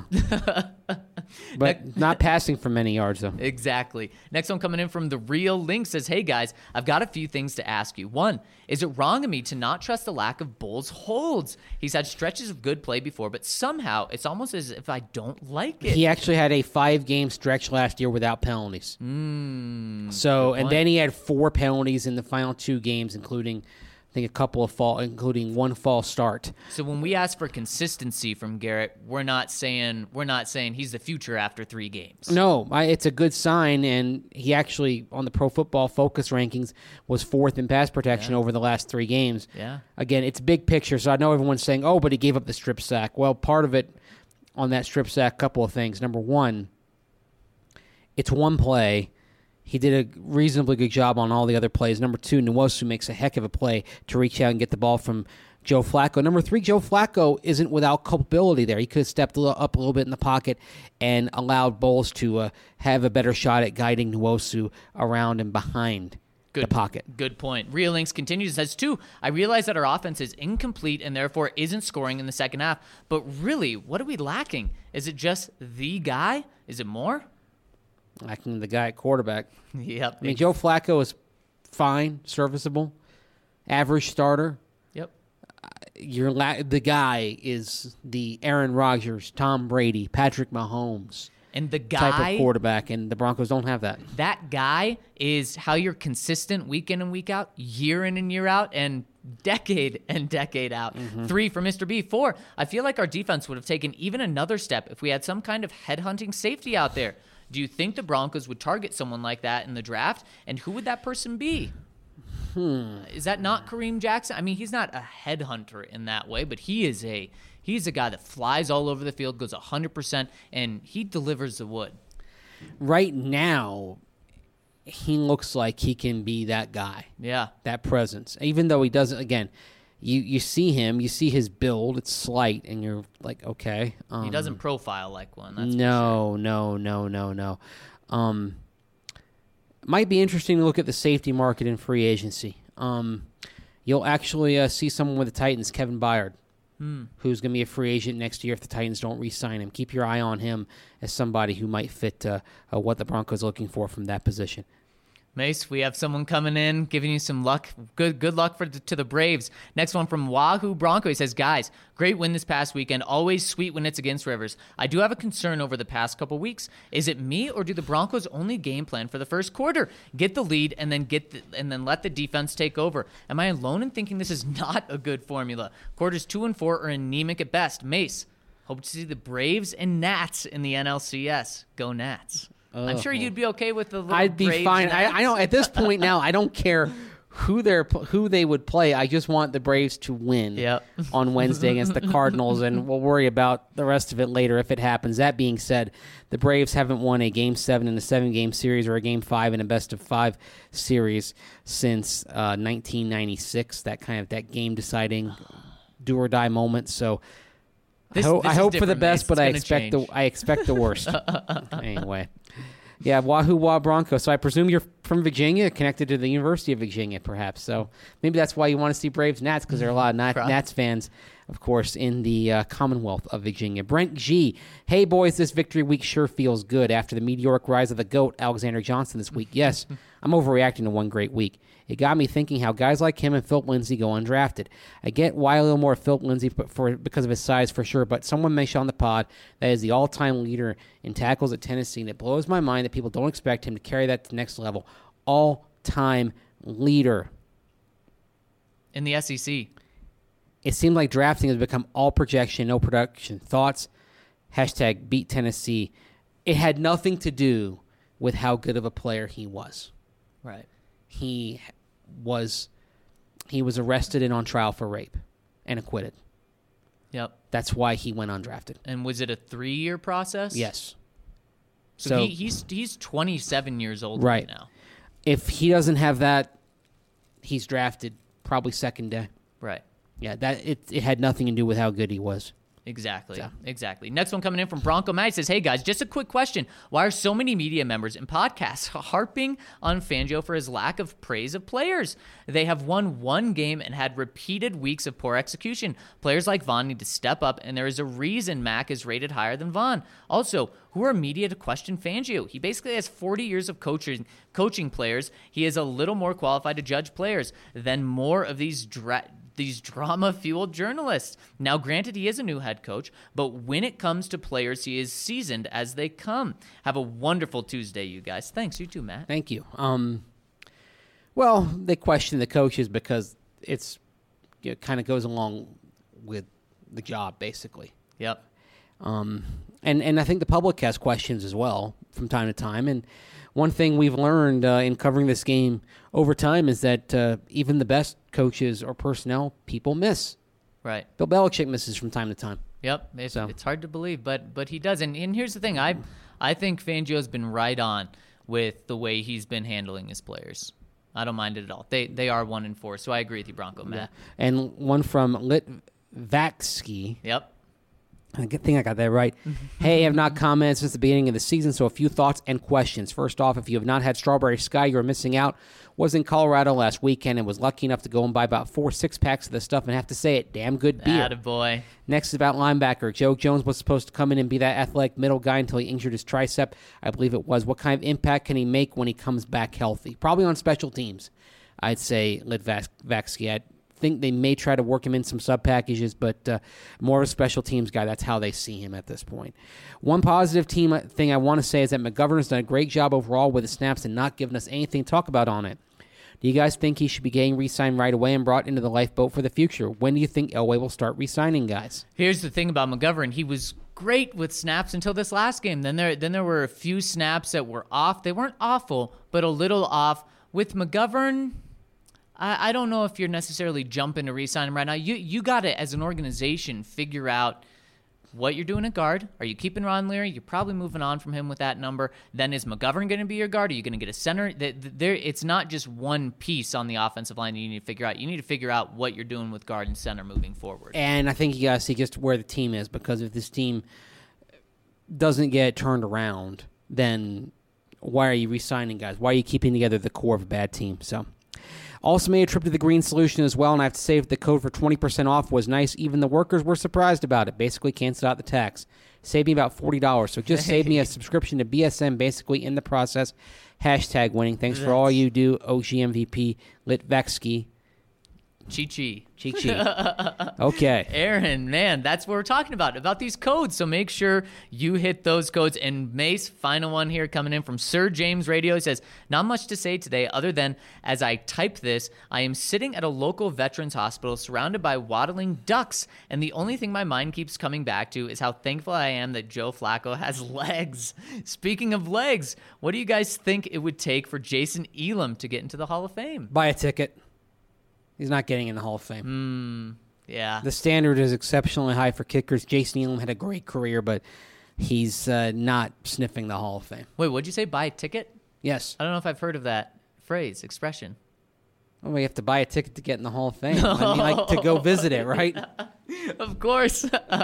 But not passing for many yards, though. Exactly. Next one coming in from The Real Link says, "Hey, guys, I've got a few things to ask you. One, is it wrong of me to not trust the lack of Bulls holds? He's had stretches of good play before, but somehow it's almost as if I don't like it." He actually had a five-game stretch last year without penalties. Mm, so, and then he had four penalties in the final two games, including, I think, a couple of fall, including one false start. So when we ask for consistency from Garrett, we're not saying we're not saying he's the future after three games. No, I, it's a good sign, and he actually, on the Pro Football Focus rankings, was fourth in pass protection Yeah. over the last three games. Yeah. Again, it's big picture, so I know everyone's saying, oh, but he gave up the strip sack. Well, part of it on that strip sack, couple of things. Number one, it's one play. He did a reasonably good job on all the other plays. Number two, Nwosu makes a heck of a play to reach out and get the ball from Joe Flacco. Number three, Joe Flacco isn't without culpability there. He could have stepped up a little bit in the pocket and allowed Bowles to uh, have a better shot at guiding Nwosu around and behind Good, the pocket. Good point. Real Links continues, says, two, I realize that our offense is incomplete and therefore isn't scoring in the second half, but really, what are we lacking? Is it just the guy? Is it more? Lacking the guy at quarterback. Yep. I mean, Joe Flacco is fine, serviceable, average starter. Yep. You're la- the guy is the Aaron Rodgers, Tom Brady, Patrick Mahomes And the guy, type of quarterback, and the Broncos don't have that. That guy is how you're consistent week in and week out, year in and year out, and decade and decade out. Mm-hmm. Three for Mister B. Four, I feel like our defense would have taken even another step if we had some kind of headhunting safety out there. Do you think the Broncos would target someone like that in the draft? And who would that person be? Hmm. Is that not Kareem Jackson? I mean, he's not a headhunter in that way, but he is a he's a guy that flies all over the field, goes one hundred percent, and he delivers the wood. Right now, he looks like he can be that guy. Yeah. That presence. Even though he doesn't, again, you, you see him, you see his build, it's slight, and you're like, okay. Um, he doesn't profile like one. That's no, no, no, no, no. Um, might be interesting to look at the safety market in free agency. Um, you'll actually uh, see someone with the Titans, Kevin Byard, hmm. who's going to be a free agent next year if the Titans don't re-sign him. Keep your eye on him as somebody who might fit uh, uh, what the Broncos are looking for from that position. Mace, we have someone coming in, giving you some luck. Good good luck for to the Braves. Next one from Wahoo Bronco. He says, guys, great win this past weekend. Always sweet when it's against Rivers. I do have a concern over the past couple weeks. Is it me, or do the Broncos only game plan for the first quarter? Get the lead and then get the, and then let the defense take over. Am I alone in thinking this is not a good formula? Quarters two and four are anemic at best. Mace, hope to see the Braves and Nats in the N L C S. Go Nats. I'm sure you'd be okay with the little I'd be Braves fine. I, Nats. I know at this point now, I don't care who they're who they would play. I just want the Braves to win Yep. on Wednesday against the Cardinals, and we'll worry about the rest of it later if it happens. That being said, the Braves haven't won a Game seven in a seven-game series or a Game five in a best-of-five series since uh, nineteen ninety-six, that kind of that game-deciding do-or-die moment. So This- I, ho- this I is hope for the different, Mace. best, It's but I gonna expect change. the I expect the worst. Anyway. Yeah, Wahoo Wah Bronco. So I presume you're from Virginia, connected to the University of Virginia, perhaps. So maybe that's why you want to see Braves Nats, because there are a lot of Nat, Probably. Nats fans, of course, in the uh, Commonwealth of Virginia. Brent G. Hey, boys, this victory week sure feels good after the meteoric rise of the GOAT, Alexander Johnson, this week. Yes, I'm overreacting to one great week. It got me thinking how guys like him and Philip Lindsay go undrafted. I get why a little more Philip Lindsay for, because of his size for sure, but someone mentioned on the pod that is the all-time leader in tackles at Tennessee, and it blows my mind that people don't expect him to carry that to the next level. All-time leader. in the S E C. It seemed like drafting has become all projection, no production. Thoughts? Hashtag beat Tennessee. It had nothing to do with how good of a player he was. Right. He was he was arrested and on trial for rape and acquitted. Yep. That's why he went undrafted. And was it a three-year process? Yes. So, So- he, he's he's twenty-seven years old Right. right now. If he doesn't have that, he's drafted probably second day. Right. Yeah, that it it had nothing to do with how good he was. Exactly. So. Exactly. Next one coming in from Bronco Matt says, hey guys, just a quick question. Why are so many media members and podcasts harping on Fangio for his lack of praise of players? They have won one game and had repeated weeks of poor execution. Players like Vaughn need to step up, and there is a reason Mac is rated higher than Vaughn. Also, who are media to question Fangio? He basically has forty years of coaching coaching players. He is a little more qualified to judge players than more of these dra- these drama-fueled journalists. Now, granted, he is a new head coach, but when it comes to players, he is seasoned as they come. Have a wonderful Tuesday, you guys. Thanks. You too, Matt. Thank you. Um, well, they question the coaches because it's it kind of goes along with the job, basically. Yep. Um, and, and I think the public has questions as well from time to time. And one thing we've learned uh, in covering this game over time is that uh, even the best coaches or personnel people miss. Right. Bill Belichick misses from time to time. Yep. It's, So. it's hard to believe, but but he does. And, and here's the thing. I I think Fangio's been right on with the way he's been handling his players. I don't mind it at all. They they are one and four, so I agree with you, Bronco Matt. And one from Litvaksky. Yep. I think I got that right. Hey, I have not commented since the beginning of the season, so a few thoughts and questions. First off, if you have not had Strawberry Sky, you're missing out. Was in Colorado last weekend and was lucky enough to go and buy about four six-packs of this stuff, and have to say it, damn good beer. Attaboy. Next is about linebacker. Joe Jones was supposed to come in and be that athletic middle guy until he injured his tricep. I believe it was. What kind of impact can he make when he comes back healthy? Probably on special teams, I'd say Litvaksky. I think they may try to work him in some sub packages, but uh, more of a special teams guy. That's how they see him at this point. One positive team thing I want to say is that McGovern has done a great job overall with the snaps and not giving us anything to talk about on it. Do you guys think he should be getting re-signed right away and brought into the lifeboat for the future? When do you think Elway will start re-signing guys? Here's the thing about McGovern. He was great with snaps until this last game. Then there then there were a few snaps that were off. They weren't awful, but a little off. With McGovern, I, I don't know if you're necessarily jumping to re-sign him right now. You you got to, as an organization, figure out what you're doing at guard. Are you keeping Ron Leary? You're probably moving on from him with that number. Then is McGovern going to be your guard? Are you going to get a center? There, it's not just one piece on the offensive line that you need to figure out. You need to figure out what you're doing with guard and center moving forward. And I think you got to see just where the team is, because if this team doesn't get turned around, then why are you re-signing guys? Why are you keeping together the core of a bad team? So, also made a trip to the Green Solution as well, and I have to say the code for twenty percent off was nice. Even the workers were surprised about it. Basically canceled out the tax. Saved me about forty dollars. So just saved me a subscription to B S N basically in the process. Hashtag winning. Thanks for all you do, O G M V P, Litvetsky. Chi-chi. Chi-chi. Okay. Aaron, man, that's what we're talking about, about these codes. So make sure you hit those codes. And Mace, final one here coming in from Sir James Radio. He says, not much to say today other than as I type this, I am sitting at a local veterans hospital surrounded by waddling ducks. And the only thing my mind keeps coming back to is how thankful I am that Joe Flacco has legs. Speaking of legs, what do you guys think it would take for Jason Elam to get into the Hall of Fame? Buy a ticket. He's not getting in the Hall of Fame. Mm, yeah. The standard is exceptionally high for kickers. Jason Elam had a great career, but he's uh, not sniffing the Hall of Fame. Wait, what'd you say? Buy a ticket? Yes. I don't know if I've heard of that phrase, expression. Well, we have to buy a ticket to get in the Hall of Fame. I mean, like to go visit it, right? Of course.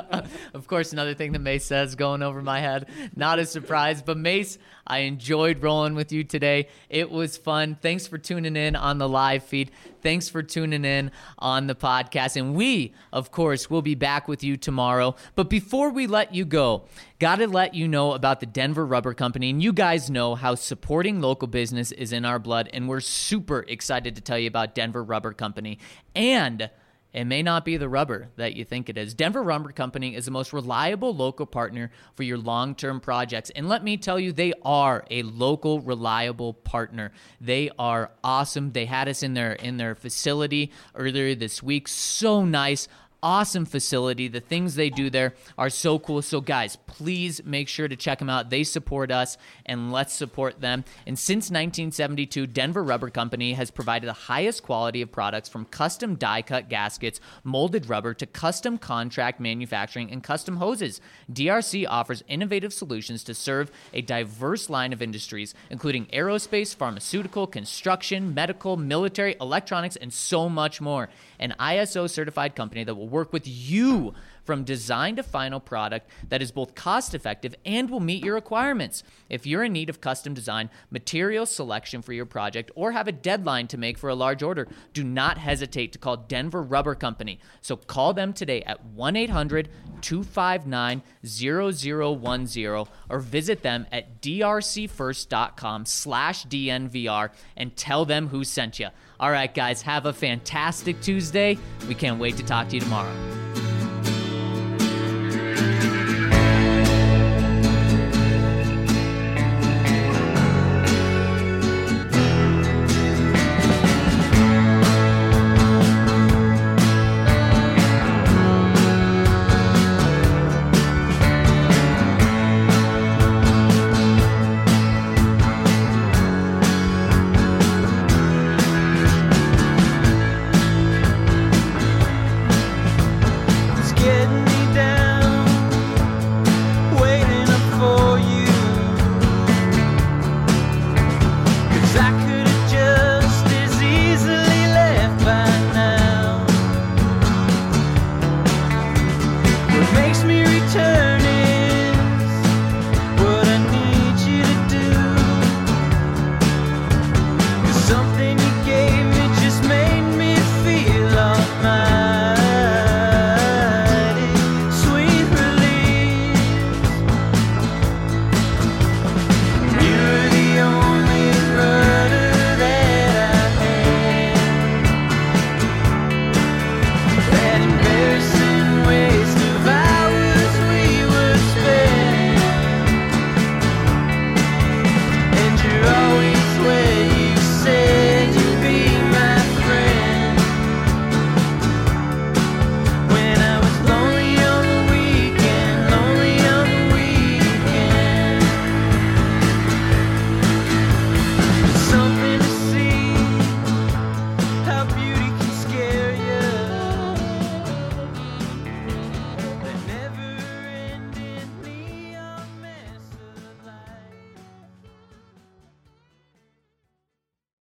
Of course, another thing that Mace says going over my head. Not a surprise. But Mace, I enjoyed rolling with you today. It was fun. Thanks for tuning in on the live feed. Thanks for tuning in on the podcast. And we, of course, will be back with you tomorrow. But before we let you go, got to let you know about the Denver Rubber Company. And you guys know how supporting local business is in our blood. And we're super excited to tell you about Denver Rubber Company. And it may not be the rubber that you think it is. Denver Rubber Company is the most reliable local partner for your long-term projects. And let me tell you, they are a local, reliable partner. They are awesome. They had us in their in their facility earlier this week. So nice. Awesome facility. The things they do there are so cool. So guys, please make sure to check them out. They support us, and let's support them. And since nineteen seventy-two, Denver Rubber Company has provided the highest quality of products, from custom die-cut gaskets, molded rubber, to custom contract manufacturing and custom hoses. D R C offers innovative solutions to serve a diverse line of industries, including aerospace, pharmaceutical, construction, medical, military, electronics, and so much more. An I S O certified company that will work with you from design to final product that is both cost effective and will meet your requirements. If you're in need of custom design, material selection for your project, or have a deadline to make for a large order, do not hesitate to call Denver Rubber Company. So call them today at one eight hundred two five nine zero zero one zero or visit them at drcfirst.com slash DNVR and tell them who sent you. All right, guys, have a fantastic Tuesday. We can't wait to talk to you tomorrow.